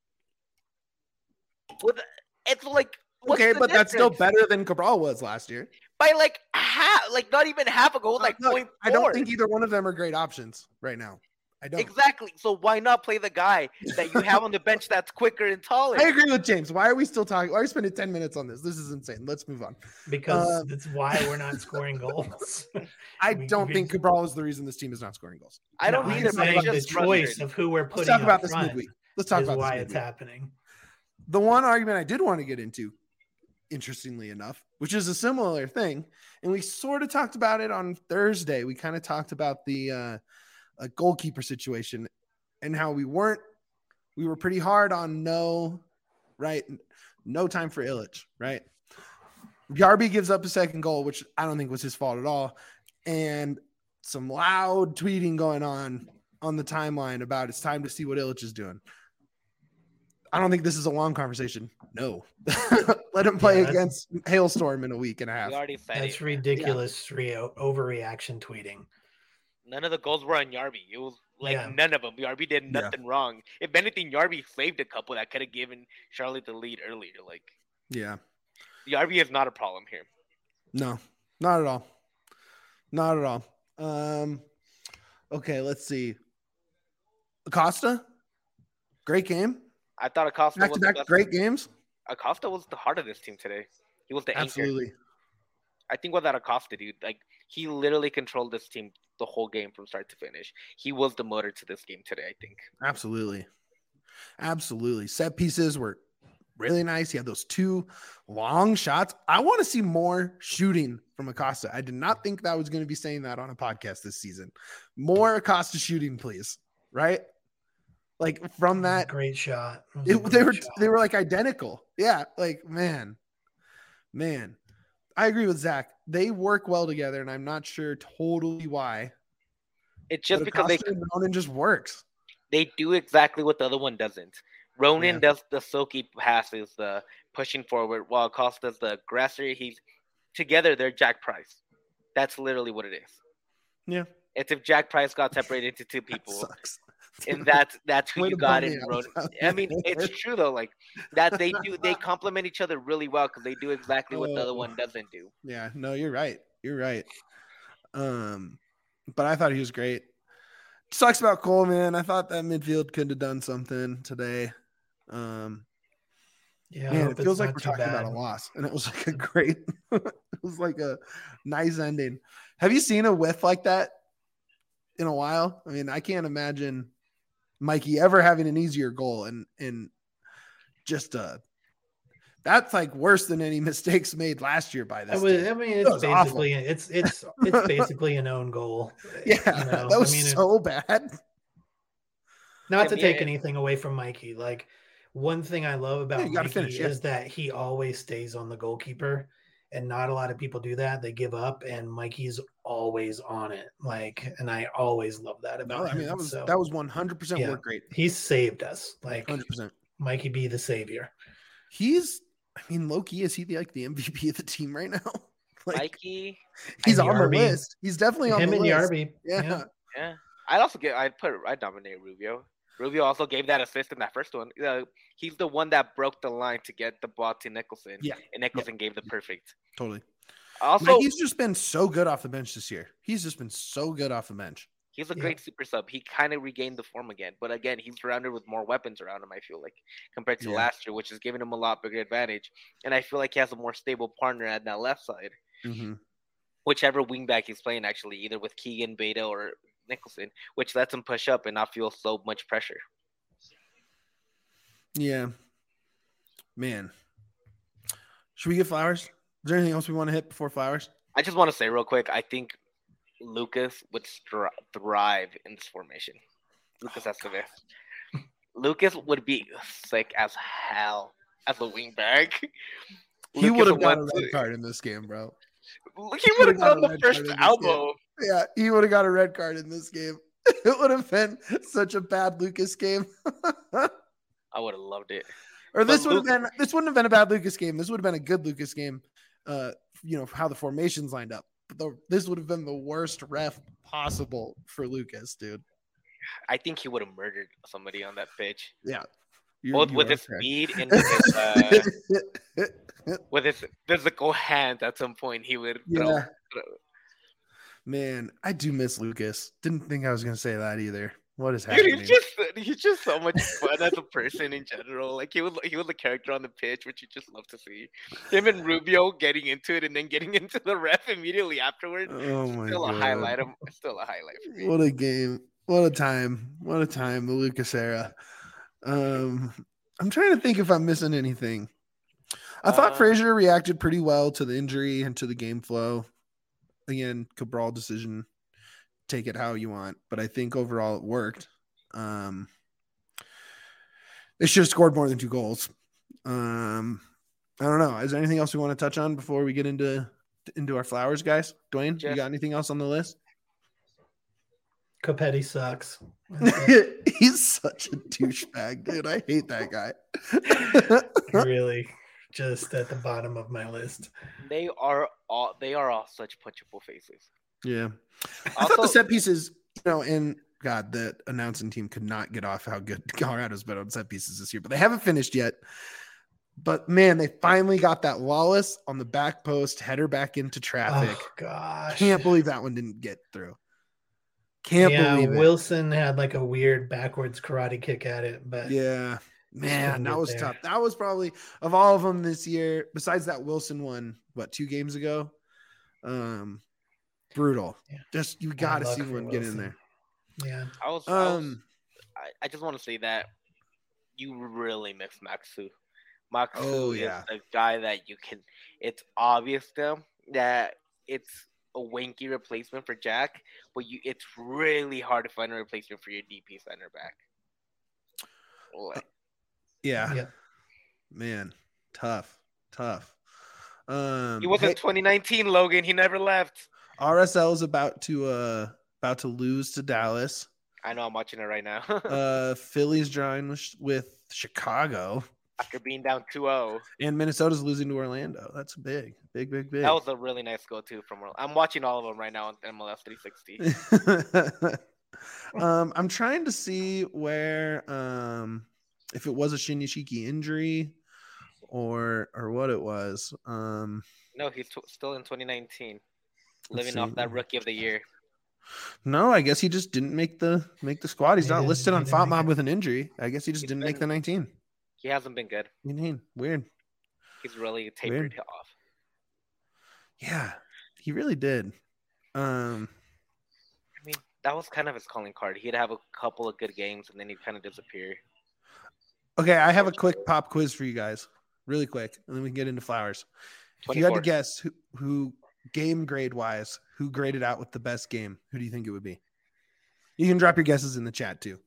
With it's like what's Okay, the but that's still difference? better than Cabral was last year. by like half, like not even half a goal, like Look, point I don't four. think either one of them are great options right now. I don't. Exactly. So why not play the guy that you have on the bench that's quicker and taller? I agree with James. Why are we still talking? Why are we spending ten minutes on this? This is insane. Let's move on. Because Um, that's why we're not scoring goals. I We- don't we- think Cabral is the reason this team is not scoring goals. I don't No, either, I'm but saying it's the just choice frustrating. of who we're Let's putting talk about up this front midweek. Let's talk is about why this it's midweek. happening. The one argument I did want to get into, interestingly enough, which is a similar thing, and we sort of talked about it on Thursday. We kind of talked about the uh, a goalkeeper situation and how we weren't, we were pretty hard on no, right? No time for Illich, right? Yarby gives up a second goal, which I don't think was his fault at all. And some loud tweeting going on on the timeline about it's time to see what Illich is doing. I don't think this is a long conversation. No. Let him play Yeah, against Hailstorm in a week and a half. We already said That's it. ridiculous re- overreaction tweeting. None of the goals were on Yarby. It was like Yeah. none of them. Yarby did Yeah. nothing wrong. If anything, Yarby saved a couple that could have given Charlotte the lead earlier. Like Yeah. Yarby is not a problem here. No, not at all. Not at all. Um, okay, let's see. Acosta, great game. I thought Acosta Back was to the back, best. great games. Acosta was the heart of this team today. He was the anchor. Absolutely. I think without Acosta, dude, like he literally controlled this team the whole game from start to finish. He was the motor to this game today, I think. Absolutely. Absolutely. Set pieces were really nice. He had those two long shots. I want to see more shooting from Acosta. I did not think that I was going to be saying that on a podcast this season. More Acosta shooting, please. Right? Like from that, Great shot. It was it, a they great were shot. they were like identical. Yeah, like man, man. I agree with Zach. They work well together, and I'm not sure totally why. It's just but because they Acosta and Ronan just works. they do exactly what the other one doesn't. Ronan Yeah. does the silky passes, the pushing forward, while Acosta's the aggressor. He's together. They're Jack Price. That's literally what it is. Yeah, It's if Jack Price got separated into two that people, sucks. and that's that's who Way you to got bum me in out. Ronan. I mean, it's true though. Like that, they do they complement each other really well because they do exactly what the other Oh. one doesn't do. Yeah, no, you're right. You're right. Um, but I thought he was great. Sucks about Coleman. I thought that midfield could have done something today. Um, Yeah, I man, hope it it's feels like not we're too talking bad. about a loss, and it was like a great, it was like a nice ending. Have you seen a whiff like that in a while? I mean, I can't imagine Mikey ever having an easier goal, and and just uh, that's like worse than any mistakes made last year by I, this. was, team. I mean, That it's was awful. basically it's it's it's basically an own goal. Yeah, you know? that was I mean, it- so bad. not Yeah, to take yeah. anything away from Mikey. Like one thing I love about Yeah, you gotta Mikey finish, yeah. is that he always stays on the goalkeeper, and not a lot of people do that. They give up, and Mikey's always on it. Like, and I always love that about No, him. I mean that was So, that was one hundred percent yeah. work rate. he saved us. Like one hundred percent. Mikey be the savior. He's, I mean, low key, is he the, like the M V P of the team right now? Like Mikey, he's and on Yarby. the list. He's definitely on Him the and list. Yarby. Yeah. Yeah. yeah. I'd also get. I'd put. I'd nominate Rubio. Rubio also gave that assist in that first one. Uh, he's the one that broke the line to get the ball to Nicholson. Yeah. and Nicholson gave the perfect. Totally. Also, He's just been so good off the bench this year. He's just been so good off the bench. he's a Yeah. great super sub. He kind of regained the form again, but again, he's surrounded with more weapons around him. I feel like compared to Yeah. last year, which is giving him a lot bigger advantage. And I feel like he has a more stable partner at that left side, Mm-hmm. whichever wingback he's playing. Actually, either with Keegan, Beta, or Nicholson, which lets him push up and not feel so much pressure. Yeah. Man. Should we get flowers? Is there anything else we want to hit before flowers? I just want to say real quick, I think Lucas would stri- thrive in this formation. Lucas Oh, Estevez. Lucas would be sick as hell as a wingback. He would have got a went red to- card in this game, bro. He would have got on a the red first card in this elbow. Yeah, he would have got a red card in this game. It would have been such a bad Lucas game. I would have loved it. Or this But would have been this wouldn't have been a bad Lucas game. This would have been a good Lucas game. Uh, you know, how the formations lined up. But the, this would have been the worst ref possible for Lucas, dude. I think he would have murdered somebody on that pitch. Yeah. Both with his correct. speed and with his, uh, with his physical hands at some point he would throw. Yeah. Man, I do miss Lucas. Didn't think I was gonna say that either. What is Dude, happening? he's just he's just so much fun as a person in general. Like he was he was a character on the pitch, which you just love to see. Him and Rubio getting into it and then getting into the ref immediately afterwards. Oh my Still god. a highlight. Of, still a highlight for me. What a game. What a time. What a time, the Lucas era. Um, I'm trying to think if I'm missing anything. I thought Uh, Frazier reacted pretty well to the injury and to the game flow. Again, Cabral decision. Take it how you want, but I think overall it worked. Um, they should have scored more than two goals. Um, I don't know. Is there anything else we want to touch on before we get into into our flowers, guys? Dwayne, you Just- got anything else on the list? Copetti sucks. He's such a douchebag, dude. I hate that guy. Really, just at the bottom of my list. They are all they are all such punchable faces. Yeah. I thought the Also- set pieces, you know, and God, the announcing team could not get off how good Colorado's been on set pieces this year, but they haven't finished yet. But man, they finally got that Wallace on the back post header back into traffic. Oh gosh, Can't believe that one didn't get through. Can't yeah, believe it. Wilson had like a weird backwards karate kick at it, but Yeah. Man, couldn't that get was there. tough. That was probably of all of them this year, besides that Wilson one, what, two games ago? Um brutal. Yeah. Just you Bad gotta luck see for one get in Wilson. there. yeah, I was, I, was Um I, I just want to say that you really miss Maxu. Maxu Oh, yeah. is a guy that you can. It's obvious to him that it's a wanky replacement for Jack, but you it's really hard to find a replacement for your D P center back. Like, yeah. yeah. Man, tough, tough. Um he was in hey, twenty nineteen, Logan. He never left. R S L is about to uh about to lose to Dallas. I know I'm watching it right now. Uh Philly's drawing with, with Chicago, After being down two oh. and Minnesota's losing to Orlando. That's big, big, big, big. That was a really nice goal too from. I'm watching all of them right now on M L S three sixty. um, I'm trying to see where, um, if it was a Shinyashiki injury, or or what it was. Um, No, he's t- still in twenty nineteen, Let's living see. off that Rookie of the Year. no, I guess he just didn't make the make the squad. He's He not didn't- listed he on didn't make FOTMob it. with an injury. I guess he just He's didn't make been- the nineteen. He hasn't been good. nineteen. Weird. He's really tapered Weird. off. Yeah, he really did. Um, I mean, that was kind of his calling card. He'd have a couple of good games and then he'd kind of disappear. okay, I have a quick pop quiz for you guys, really quick, and then we can get into flowers. If you had to twenty-four. guess who, who game grade wise, who graded out with the best game, who do you think it would be? You can drop your guesses in the chat too.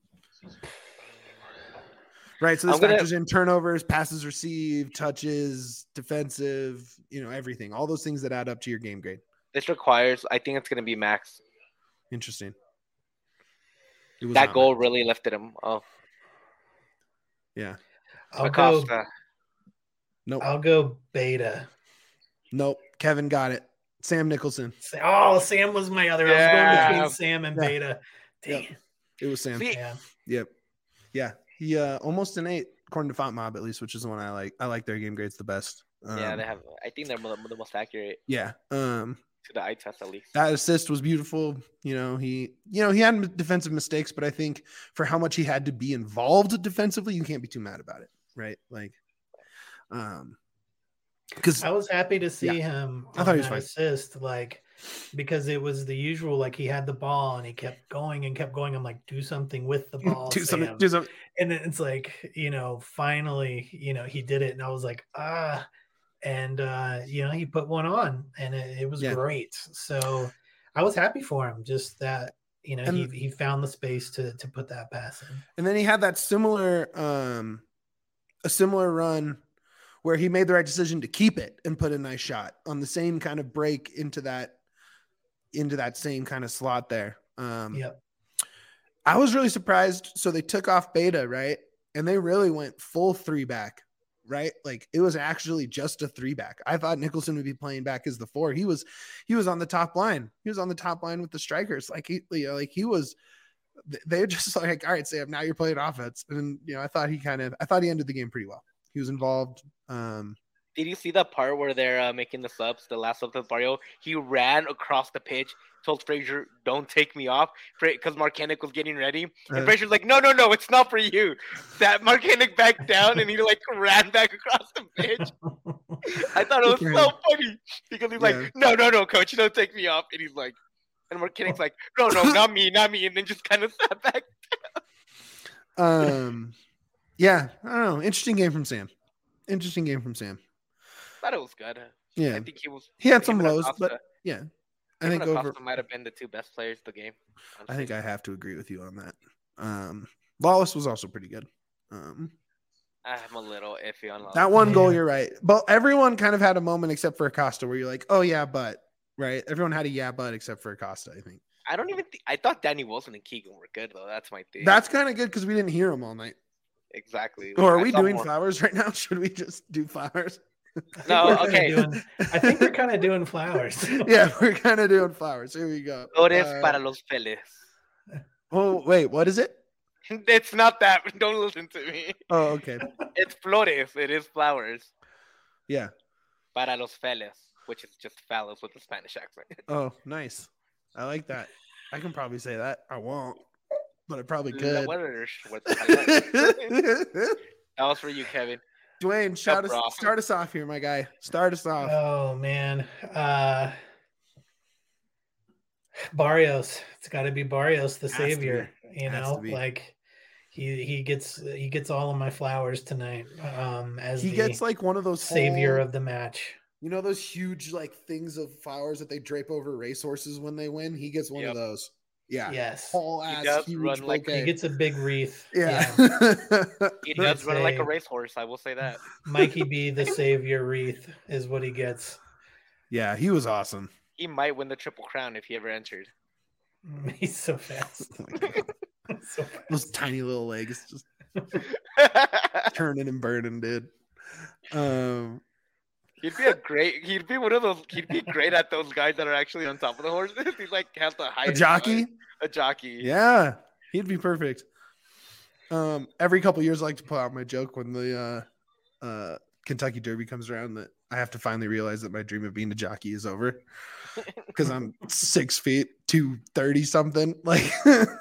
Right, so this I'm gonna- factors in turnovers, passes received, touches, defensive, you know, everything. All those things that add up to your game grade. This requires, I think it's going to be Max. Interesting. It was That not goal Max. really lifted him. Oh, Yeah. I'll go. Acosta. Nope. I'll go Beta. Nope. Kevin got it. Sam Nicholson. Oh, Sam was my other. I was Yeah. going between Sam and Yeah. Beta. Dang. Yep. It was Sam. See, Yeah. Yep. Yeah. He uh almost an eight, according to FontMob at least, which is the one I like. I like their game grades the best. Um, yeah, they have. I think they're the the most accurate Yeah. Um to the eye test at least. that assist was beautiful. You know, he you know, he had defensive mistakes, but I think for how much he had to be involved defensively, you can't be too mad about it. Right. Like um because I was happy to see him I on thought he was that fine. assist, like because it was the usual, like he had the ball and he kept going and kept going. I'm like, do something with the ball, do something Sam. do something. And then it's like, you know, finally, you know, he did it, and I was like, ah, and uh, you know, he put one on, and it, it was Yeah. great. So I was happy for him. Just that, you know, And- he he found the space to to put that pass in. And then he had that similar, um, a similar run where he made the right decision to keep it and put a nice shot on the same kind of break into that, into that same kind of slot there. Um, Yep. I was really surprised. So they took off Beta, right? And they really went full three back, right? Like it was actually just a three back. I thought Nicholson would be playing back as the four. He was, he was on the top line. He was on the top line with the strikers. Like he, you know, like he was, they're just like, all right, Sam, now you're playing offense. And, you know, I thought he kind of, I thought he ended the game pretty well. He was involved. Um, Did you see the part where they're uh, making the subs, the last sub to Barrio? He ran across the pitch, told Frazier, don't take me off, because Mark Hennick was getting ready. And Uh, Frazier's like, no, no, no, it's not for you. That Mark Hennick back down, and he like ran back across the pitch. I thought it was Good for so him. funny, because he's Yeah. like, no, no, no, coach, don't take me off. And he's like, and Mark Hennick's like, no, no, not me, not me. And then just kind of sat back. um, yeah, I don't know. Interesting game from Sam. Interesting game from Sam. Thought it was good. Yeah. I think he was. He had him some and lows, Acosta- but yeah, I him think and over, Acosta might have been the two best players of the game. I think I have to agree with you on that. Um, Lawless was also pretty good. Um, I'm a little iffy on that one goal, Yeah. you're right. But everyone kind of had a moment except for Acosta where you're like, oh yeah, but right. Everyone had a yeah, but except for Acosta, I think. I don't even. Th- I thought Danny Wilson and Keegan were good though. That's my thing. That's kind of good because we didn't hear him all night. exactly. Or are I we saw doing more- flowers right now? Should we just do flowers? No, We're kinda okay. doing- I think we're kind of doing flowers. Yeah, we're kind of doing flowers. Here we go. Flores Uh, para los Feles. oh, wait, what is it? It's not that. Don't listen to me. Oh, okay. It's flores. It is flowers Yeah. para los Feles, which is just fellas with a Spanish accent. Oh, nice. I like that. I can probably say that. I won't, but I probably La could. buena- what the hell? That was for you, Kevin. Dwayne, shout us, bro. start us off here, my guy. Start us off. Oh man, uh, Barrios. It's got to be Barrios, the Has to savior. You Has know, to be. like he he gets he gets all of my flowers tonight. Um, as He the gets like one of those savior whole- of the match. you know those huge like things of flowers that they drape over racehorses when they win. He gets one Yep. of those. Yeah, Yes, whole He ass does huge run like- bouquet. he gets a big wreath. yeah. He does It's run like a a- racehorse. I will say that. Mikey B, the savior wreath, is what he gets. yeah, he was awesome. He might win the triple crown if he ever entered. He's so fast. Oh my God. so fast. Those tiny little legs just turning and burning, dude. Um, He'd be a great. He'd be one of those. He'd be great at those guys that are actually on top of the horses. He's like has the a highest jockey. A jockey. Yeah, he'd be perfect. Um, every couple years, I like to pull out my joke when the uh, uh, Kentucky Derby comes around that I have to finally realize that my dream of being a jockey is over because I'm six feet, two thirty something. Like,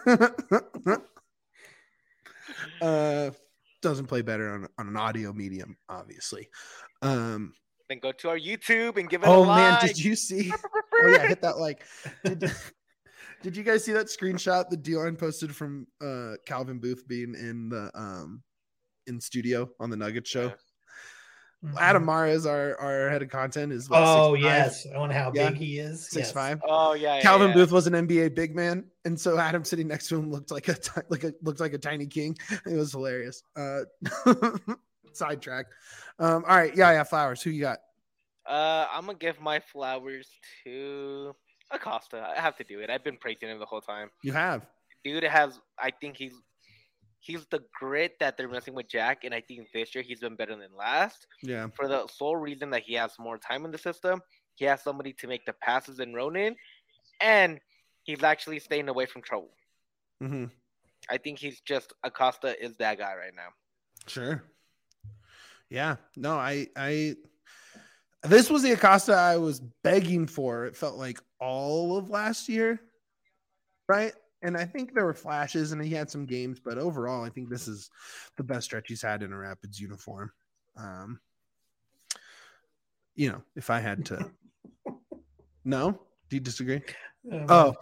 uh, doesn't play better on on an audio medium, obviously. Um, Then go to our YouTube and give it oh a man, like. did you see? Oh yeah, hit that like. Did, did you guys see that screenshot that D-Line posted from uh, Calvin Booth being in the um, in studio on the Nuggets show? Adam Mares, our our head of content, is what, Oh six five, yes, I wonder how Yeah. big he is. six Yes. five. Oh yeah. yeah, Calvin yeah. Booth was an N B A big man, and so Adam sitting next to him looked like a ti- like a looked like a tiny king. It was hilarious. Uh, sidetrack. Um, all right, yeah, yeah. Flowers. Who you got? Uh, I'm gonna give my flowers to Acosta. I have to do it. I've been praising him the whole time. You have. Dude has. I think he's. He's the grit that they're missing with Jack, and I think this year he's been better than last. Yeah. For the sole reason that he has more time in the system, he has somebody to make the passes in Ronan, and he's actually staying away from trouble. Mm-hmm. I think he's just Acosta is that guy right now. Sure. Yeah. No, I, I, this was the Acosta I was begging for. It felt like all of last year. Right. And I think there were flashes and he had some games, but overall, I think this is the best stretch he's had in a Rapids uniform. Um, you know, if I had to, no, do you disagree? Oh.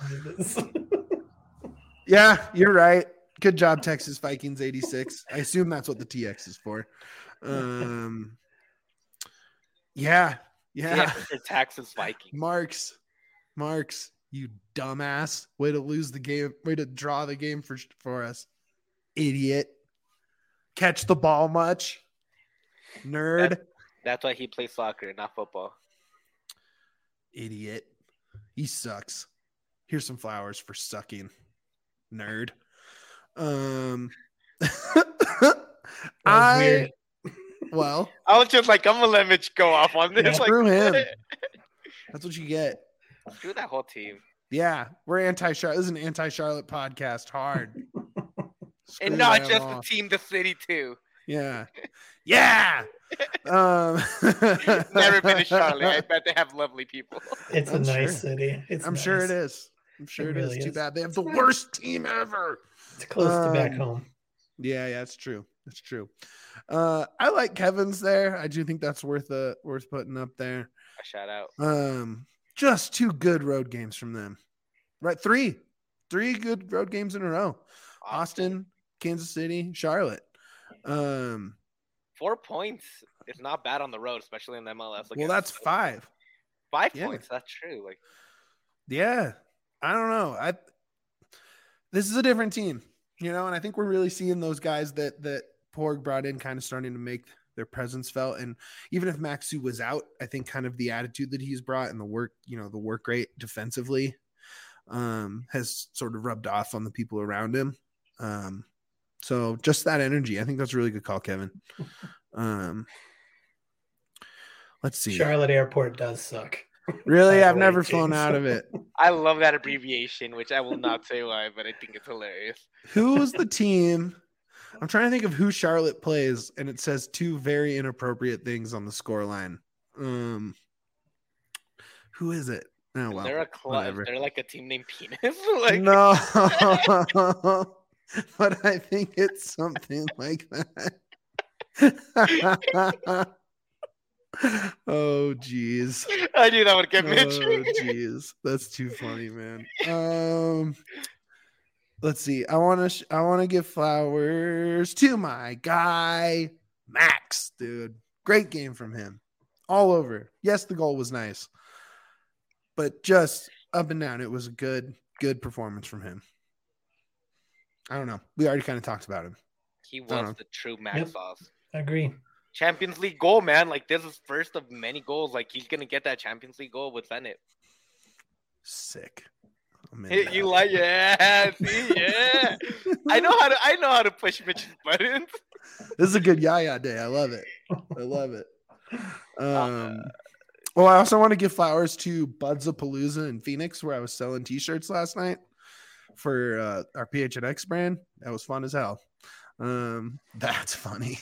Yeah, you're right. Good job, Texas Vikings eighty-six. I assume that's what the T X is for. Um, yeah, yeah. Yeah, for Texas Vikings. Marks, Marks. You dumbass. Way to lose the game. Way to draw the game for, for us. Idiot. Catch the ball much? Nerd. That, that's why he plays soccer, not football. Idiot. He sucks. Here's some flowers for sucking. Nerd. Um, I weird. well, I was just like, I'm gonna let Mitch go off on this. Yeah, like, screw him. That's what you get. Screw that whole team. Yeah, we're anti-Charlotte. This is an anti-Charlotte podcast. Hard. Screw And not them just off. the team, the city too. Yeah. Yeah. um, Never been to Charlotte. I bet they have lovely people. It's I'm a nice sure. city. It's I'm nice. sure it is. I'm sure It it, really is. Too is. bad they have It's the nice. worst team ever. It's close to back Um, home. Yeah, yeah, it's true. It's true. Uh, I like Kevin's there. I do think that's worth uh, worth putting up there. A shout out. Um, just two good road games from them. Right, three, three good road games in a row. Austin, Kansas City, Charlotte. Um, Four points is not bad on the road, especially in the M L S. well, against- that's five. five yeah. points. That's true. Like, Yeah, I don't know. I this is a different team, you know, and I think we're really seeing those guys that that Porg brought in kind of starting to make their presence felt. And even if Maxu was out, I think kind of the attitude that he's brought and the work, you know, the work rate defensively um, has sort of rubbed off on the people around him. Um, so just that energy, I think that's a really good call, Kevin. Um, let's see. Charlotte Airport does suck. Really, By I've the never way, flown James. out of it. I love that abbreviation, which I will not say why, but I think it's hilarious. Who was the team? I'm trying to think of who Charlotte plays, and it says two very inappropriate things on the score line. Um, who is it? Oh, well, They're a club. whatever. They're like a team named Penis. like, No, but I think it's something like that. Oh, geez. I knew that would get Oh, Mitch. jeez, that's too funny, man. Um, let's see. I want to. Sh- I want to give flowers to my guy Max, dude. Great game from him, all over. Yes, the goal was nice, but just up and down, it was a good, good performance from him. I don't know. We already kind of talked about him. He don't know. was the true Max Yep. sauce. Agree. Champions League goal, man. Like, this is first of many goals. Like, he's gonna get that Champions League goal with Zenit. Sick. I'm in Hey, that. you like, yeah, see, yeah. I know how to. I know how to push Mitch's buttons. This is a good Yaya day. I love it. I love it. Uh, Um, well, I also want to give flowers to Buds of Palooza in Phoenix, where I was selling T-shirts last night for uh, our P H N X brand. That was fun as hell. Um, that's funny.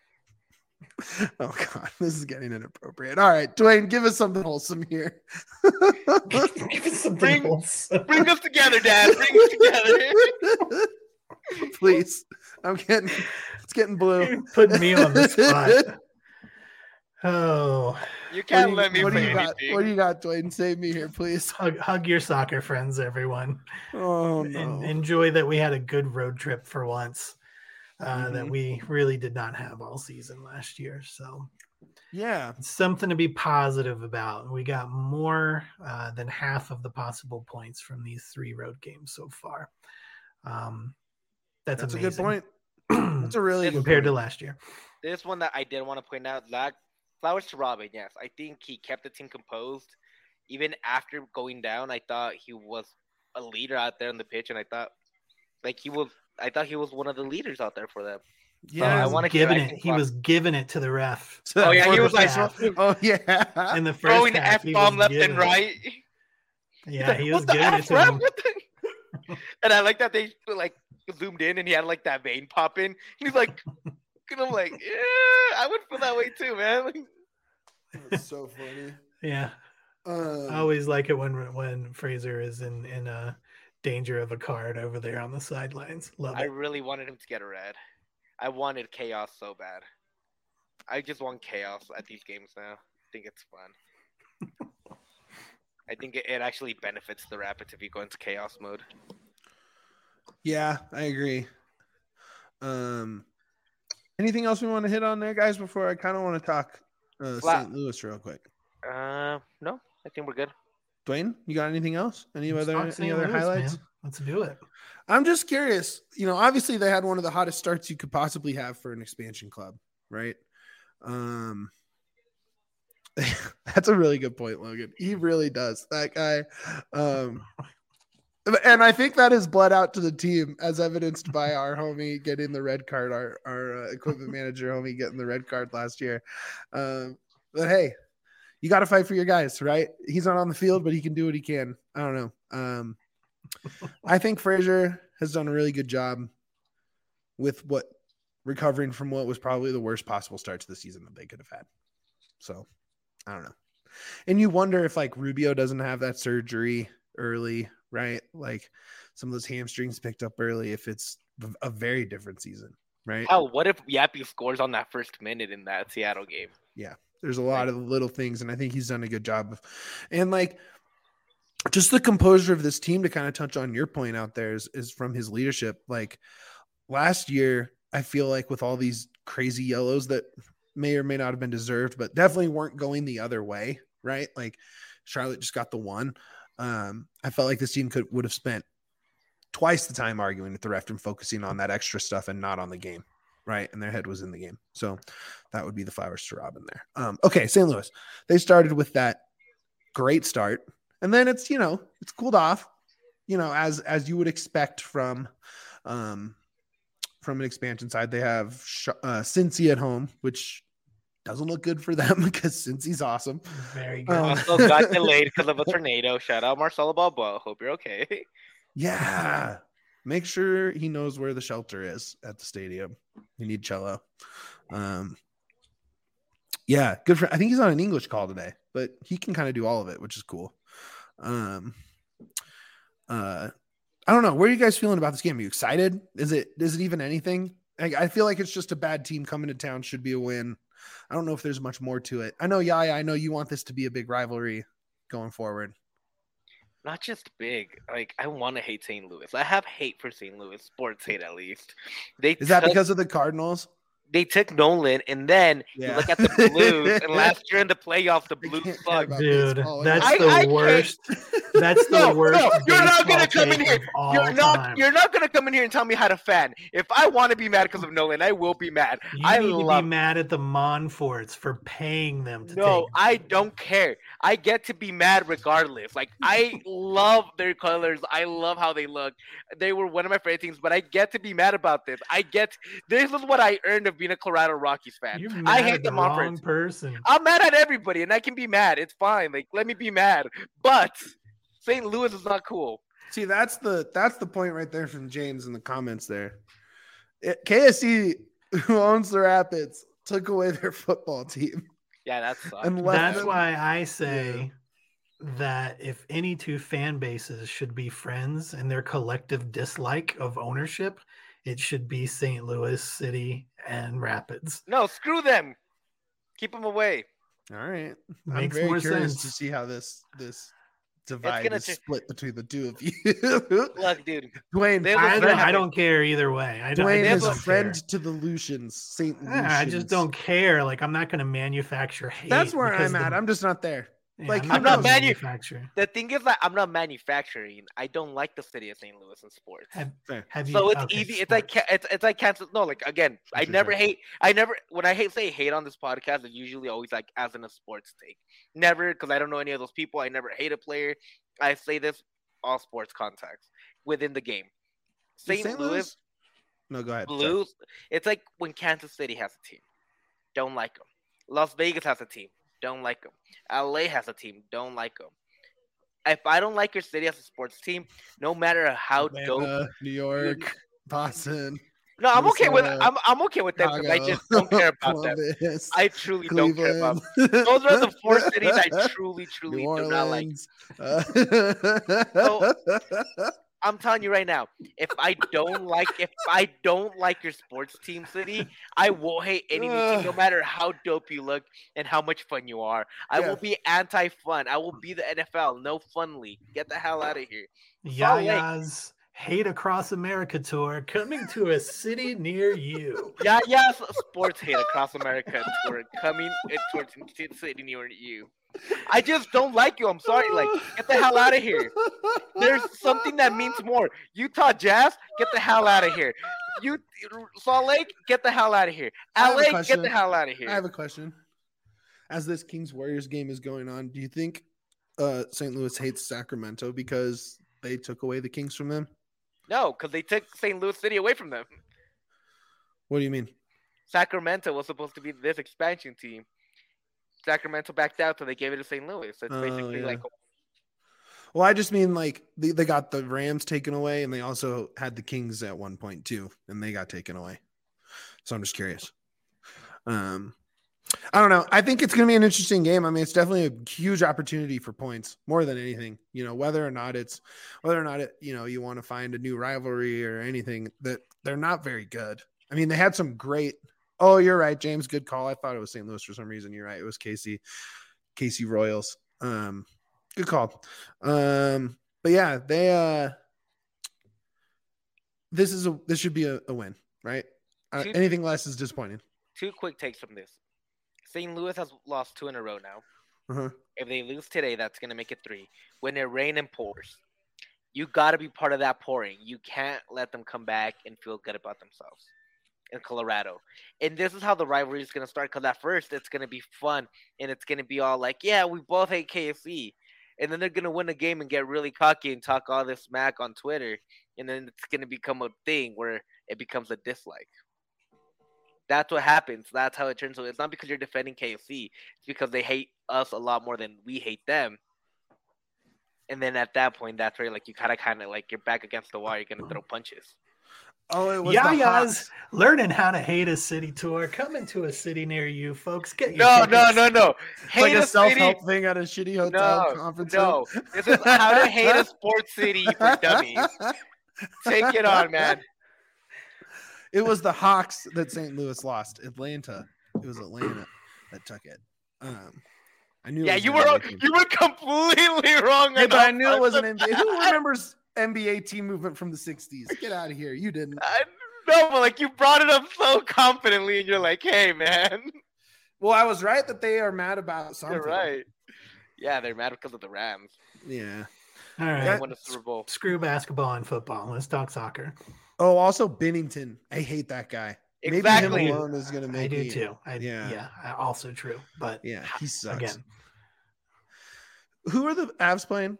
Oh God, this is getting inappropriate. All right, Dwayne, give us something wholesome here. Give us something Bring- else. Bring us together, Dad. Bring us together. Please, I'm getting it's getting blue. Putting me on the spot. Oh, You What can't do you- let me what do say you got? anything. What do you got, Dwayne? Save me here, please. hug, hug your soccer friends, everyone. Oh no. En- enjoy that we had a good road trip for once uh, that Mhm. we really did not have all season last year. So Yeah. it's something to be positive about. We got more uh, than half of the possible points from these three road games so far. Um, that's That's a amazing. good point. That's a really good compared to point. last year. This one that I did want to point out, that flowers to Robin. Yes, I think he kept the team composed, even after going down. I thought he was a leader out there on the pitch, and I thought, like he was, I thought he was one of the leaders out there for them. Yeah, I he was wanna give giving I it. think He Rob- was giving it to the ref Oh, yeah, he For was the like- half. Oh yeah. in the first Throwing half, F he bomb was left giving and it. right. Yeah, he was What the giving it F, to ref? him. What the- And I like that they like zoomed in and he had like that vein pop in. He's like, and I'm like, yeah, I would feel that way too, man. Like, That's so funny. Yeah, Um, I always like it when when Fraser is in in uh, danger of a card over there on the sidelines. Love I it. really wanted him to get a red. I wanted chaos so bad. I just want chaos at these games now. I think it's fun. I think it, it actually benefits the Rapids if you go into chaos mode. yeah, I agree. Um, anything else we want to hit on there, guys? Before I kind of want to talk uh, Flat. Saint Louis real quick. Uh, no, I think we're good. Dwayne, you got anything else? Any Let's other talk any Saint other Louis, highlights? man. Let's do it. I'm just curious. You know, obviously they had one of the hottest starts you could possibly have for an expansion club, right? Um, that's a really good point, Logan. He really does. That guy. Um, and I think that is bled out to the team, as evidenced by our homie getting the red card, our our uh, equipment manager homie getting the red card last year. Um, but hey, you got to fight for your guys, right? He's not on the field, but he can do what he can. I don't know. Um, I think Frazier has done a really good job with what recovering from what was probably the worst possible start to the season that they could have had. So I don't know. And you wonder if like Rubio doesn't have that surgery early, right? Like some of those hamstrings picked up early, if it's a very different season, right? Hell, what if Yappy scores on that first minute in that Seattle game? Yeah. There's a lot of little things, and I think he's done a good job of, and like just the composure of this team, to kind of touch on your point out there, is, is from his leadership. Like last year, I feel like with all these crazy yellows that may or may not have been deserved, but definitely weren't going the other way, right? Like Charlotte just got the one. Um, I felt like this team could would have spent twice the time arguing with the ref and focusing on that extra stuff and not on the game, right? And their head was in the game. So that would be the flowers to Robin there. Um, okay, Saint Louis. They started with that great start, and then it's, you know, it's cooled off, you know, as as you would expect from um, from an expansion side. They have uh, Cincy at home, which doesn't look good for them because Cincy's awesome. Very good. Um, Also got delayed because of a tornado. Shout out Marcelo Balboa. Hope you're okay. Yeah. Make sure he knows where the shelter is at the stadium. You need cello. Um, yeah, good for. I think he's on an English call today, but he can kind of do all of it, which is cool. Um, uh, I don't know. Where are you guys feeling about this game? Are you excited? Is it is it even anything? I, I feel like it's just a bad team coming to town. Should be a win. I don't know if there's much more to it. I know, Yaya, I know you want this to be a big rivalry going forward. Not just big. Like, I want to hate Saint Louis. I have hate for Saint Louis. Sports hate, at least. They Is that took, because of the Cardinals? They took Nolan, and then Yeah. you look at the Blues, and last year in the playoffs, the I Blues can't care sucked. about Dude, baseball. that's I- the I can't- worst. That's the No, worst. no, you're not gonna baseball come in take here. of all You're not. time. You're not gonna come in here and tell me how to fan. If I want to be mad because of Nolan, I will be mad. You I need to love. be mad at the Monforts for paying them to No, take. I don't care. I get to be mad regardless. Like, I love their colors. I love how they look. They were one of my favorite teams, but I get to be mad about this. I get this is what I earned of being a Colorado Rockies fan. You're I mad hate at the the wrong Monforts. person. I'm mad at everybody, and I can be mad. It's fine. Like, let me be mad. But Saint Louis is not cool. See, that's the that's the point right there from James in the comments there. It, K S E, who owns the Rapids, took away their football team. Yeah, that sucks. And left That's them- why I say that if any two fan bases should be friends in their collective dislike of ownership, it should be Saint Louis City and Rapids. No, screw them. Keep them away. All right. I'm Makes very more curious sense. to see how this this divide gonna is ch- split between the two of you. Look, dude. Dwayne, They I look don't, very- I don't care either way. I don't, I Dwayne just is a don't friend care. to the Lucians, Saint Lucians. Yeah, I just don't care. Like, I'm not going to manufacture hate. That's where because I'm at. the- I'm just not there. yeah, like, I'm who not knows? gonna Manu- manufacture. The thing is that I'm not manufacturing. I don't like the city of Saint Louis in sports. Have, Fair. have you, So it's okay, easy. It's like sports. ca- it's it's like cancel. No, like again, I Sure, never sure. hate. I never when I hate say hate on this podcast, it's usually always like as in a sports take. Never because I don't know any of those people. I never hate a player. I say this all sports context within the game. Is Saint Louis No, go ahead. Sorry. Blues. It's like when Kansas City has a team, don't like them. Las Vegas has a team, don't like them. L A has a team, don't like them. If I don't like your city as a sports team, no matter how dope. Atlanta, New York, Boston. No, I'm okay with Minnesota, I'm I'm okay with them because I Chicago, just don't care about them. Columbus, I truly don't care about. Cleveland. Those are the four cities I truly, truly New do not like. Orleans. Uh, I'm telling you right now, if I don't like if I don't like your sports team city, I will hate any new team, no matter how dope you look and how much fun you are. I Yeah. will be anti-fun. I will be the N F L. No fun league. Get the hell out of here. Salt Lake. Yaya's Hate Across America tour coming to a city near you. Yeah, yeah. Sports hate across America tour coming uh, towards city near you. I just don't like you. I'm sorry. Like, get the hell out of here. There's something that means more. Utah Jazz, get the hell out of here. You Salt Lake, get the hell out of here. L A, get the hell out of here. I have a question. As this Kings Warriors game is going on, do you think uh, Saint Louis hates Sacramento because they took away the Kings from them? No, because they took Saint Louis City away from them. What do you mean? Sacramento was supposed to be this expansion team. Sacramento backed out, so they gave it to Saint Louis. So it's Oh, basically yeah. like, Well, I just mean like they, they got the Rams taken away, and they also had the Kings at one point too, and they got taken away. So I'm just curious. Um, I don't know. I think it's going to be an interesting game. I mean, it's definitely a huge opportunity for points more than anything. You know, whether or not it's whether or not it, you know, you want to find a new rivalry or anything, that they're not very good. I mean, they had some great. Oh, you're right, James. Good call. I thought it was Saint Louis for some reason. You're right. It was Casey, Casey Royals. Um, good call. Um, but yeah, they. Uh, this is a this should be a, a win, right? Uh, Two- anything less is disappointing. two quick takes from this. Saint Louis has lost two in a row now. Uh-huh. If they lose today, that's going to make it three. When it rains and pours, you got to be part of that pouring. You can't let them come back and feel good about themselves in Colorado. And this is how the rivalry is going to start, because at first it's going to be fun, and it's going to be all like, yeah, we both hate K F C. And then they're going to win a game and get really cocky and talk all this smack on Twitter. And then it's going to become a thing where it becomes a dislike. That's what happens. That's how it turns out. It's not because you're defending K F C. It's because they hate us a lot more than we hate them. And then at that point, that's where like you kind of, kind of like you're back against the wall. You're gonna throw punches. Oh, it was Yeah, the guys, Hawks. learning how to hate a city tour. Coming to a city near you, folks. Get your No, no, tickets. no, no. It's Hate like a a city. self-help thing at a shitty hotel No, conference. no. This is how to hate a sports city for dummies. Take it on, man. It was the Hawks that Saint Louis lost. Atlanta. It was Atlanta that took it. Um, I knew. it Yeah, was you an were N B A team. you were completely wrong. Yeah, on but I that knew it was an part. N B A. Who remembers N B A team movement from the sixties? Get out of here. You didn't. I, no, but like you brought it up so confidently, and you're like, "Hey, man, Well, I was right that they are mad about something. you're right." Yeah, they're mad because of the Rams. Yeah. All They right. won the Super Bowl. Screw basketball and football. Let's talk soccer. Oh, also Bennington. I hate that guy. Exactly. Maybe him alone is going to make I do me- too. I, yeah. yeah. yeah, also true. But Yeah, he sucks. again, Who are the Avs playing?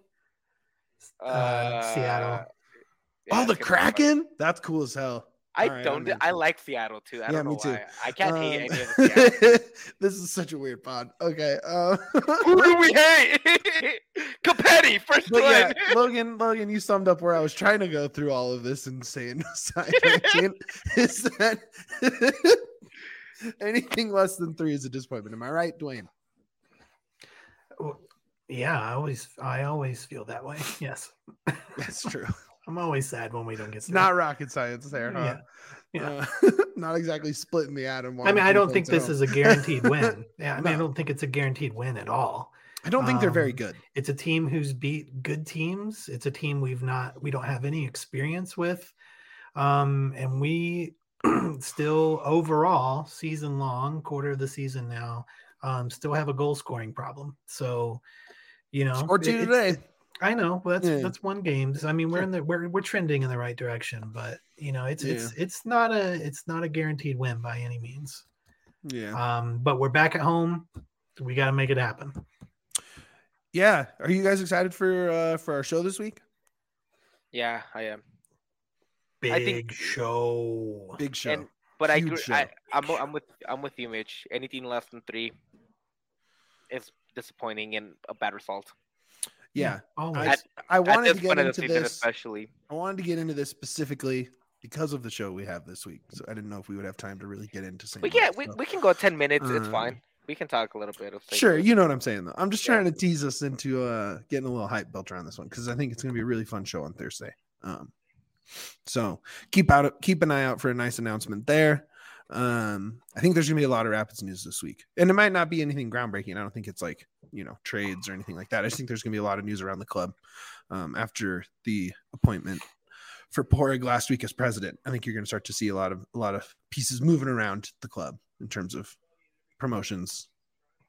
Uh, Seattle. yeah, oh, it's the gonna be fun. Kraken? That's cool as hell. I All right, don't. I'm I into it. like Seattle too. I Yeah, don't know me too. why. I can't hate Um, any of the Seattle. this is such a weird pod. Okay. Uh, Who do we hate? Capetti, first but one. yeah, Logan, Logan, you summed up where I was trying to go through all of this and saying side ranking is that anything less than three is a disappointment. Am I right, Dwayne? yeah, I always, I always feel that way. Yes, That's true. I'm always sad when we don't get. It's not rocket science there, huh? Yeah. Uh, not exactly splitting the atom. I mean, I don't think this is a guaranteed win. Yeah, I mean, I No. don't think it's a guaranteed win at all. I don't think they're very um, good. It's a team who's beat good teams. It's a team we've not, we don't have any experience with, um, and we still overall season long, quarter of the season now, um, still have a goal scoring problem. So, you know, Scored two it- today. I know, but that's Yeah. that's one game. I mean, we're Sure. in the we're we're trending in the right direction, but you know, it's Yeah. it's it's not a it's not a guaranteed win by any means. Yeah. Um, but we're back at home. We got to make it happen. Yeah. Are you guys excited for uh for our show this week? Yeah, I am. Big I think- show. Big show. And- But I Huge agree. show. I, I'm I'm with I'm with you, Mitch. Anything less than three is disappointing and a bad result. yeah. always. I, I At wanted this to get point of the into season, this. especially. I wanted to get into this specifically because of the show we have this week. So I didn't know if we would have time to really get into Saint We Louis, can we, so- we can go ten minutes. It's Um, fine. We can talk a little bit of Saint Sure, Louis. you know what I'm saying though. I'm just Yeah. trying to tease us into uh getting a little hype built around this one because I think it's gonna be a really fun show on Thursday. Um, so keep out keep an eye out for a nice announcement there. Um, I think there's gonna be a lot of Rapids news this week, and it might not be anything groundbreaking. I don't think it's like you know trades or anything like that. I just think there's gonna be a lot of news around the club um, after the appointment for Porig last week as president. I think you're gonna start to see a lot of a lot of pieces moving around the club in terms of promotions,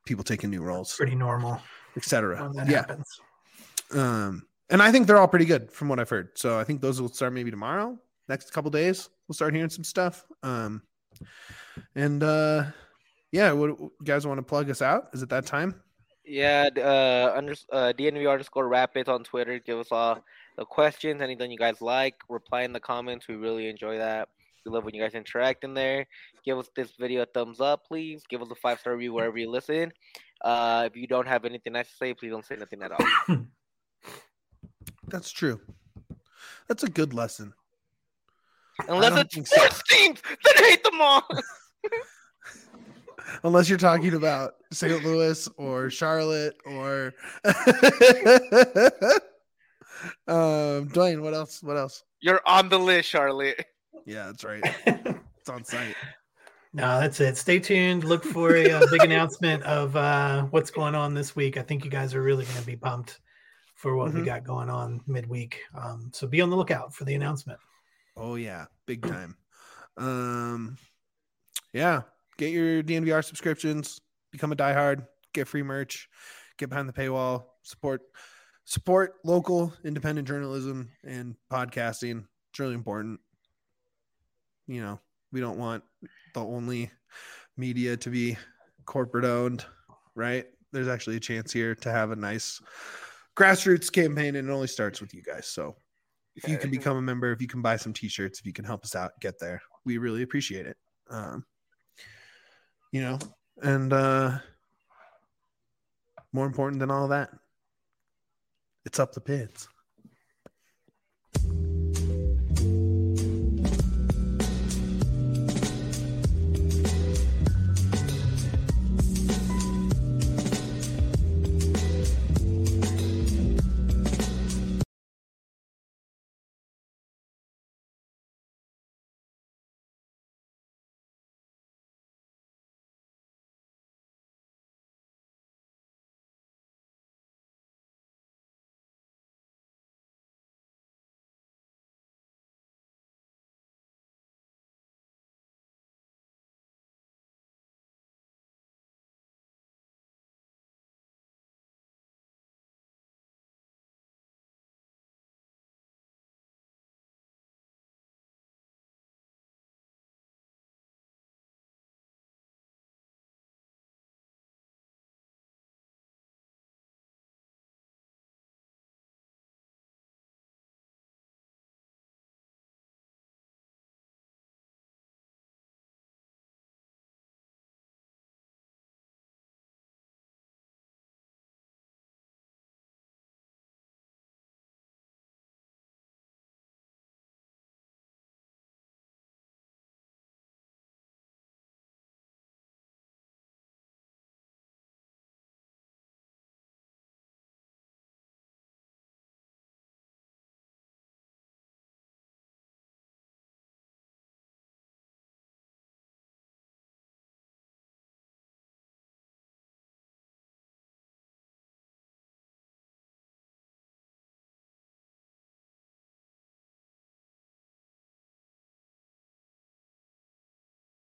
people taking new roles, Pretty normal, et cetera. when that Yeah. happens. Um, and I think they're all pretty good from what I've heard. So I think those will start maybe tomorrow. Next couple days, we'll start hearing some stuff. Um, and uh, yeah, what you guys want to plug us out? Is it that time? Yeah, uh, under, uh, D N V underscore Rapids on Twitter. Give us all the questions, anything you guys like. Reply in the comments. We really enjoy that. We love when you guys interact in there. Give us this video a thumbs up, please. Give us a five star review wherever you listen. Uh, if you don't have anything nice to say, please don't say nothing at all. That's true. That's a good lesson. Unless don't it's think so. sports teams, then hate them all. Unless you're talking about Saint Louis or Charlotte or um, Dwayne, what else? What else? You're on the list, Charlotte. Yeah, that's right. It's on site. No, that's it. Stay tuned. Look for a, uh big announcement of uh, what's going on this week. I think you guys are really going to be pumped for what Mhm. we got going on midweek. Um, so be on the lookout for the announcement. Oh yeah, big time. Um, yeah, get your D N V R subscriptions, become a diehard, get free merch, get behind the paywall, support support local independent journalism and podcasting. It's really important. You know, we don't want the only media to be corporate owned, right? There's actually a chance here to have a nice grassroots campaign, and it only starts with you guys. So if you can become a member, if you can buy some t-shirts, if you can help us out, get there. We really appreciate it. Um, you know, and uh, more important than all that, it's up the pits.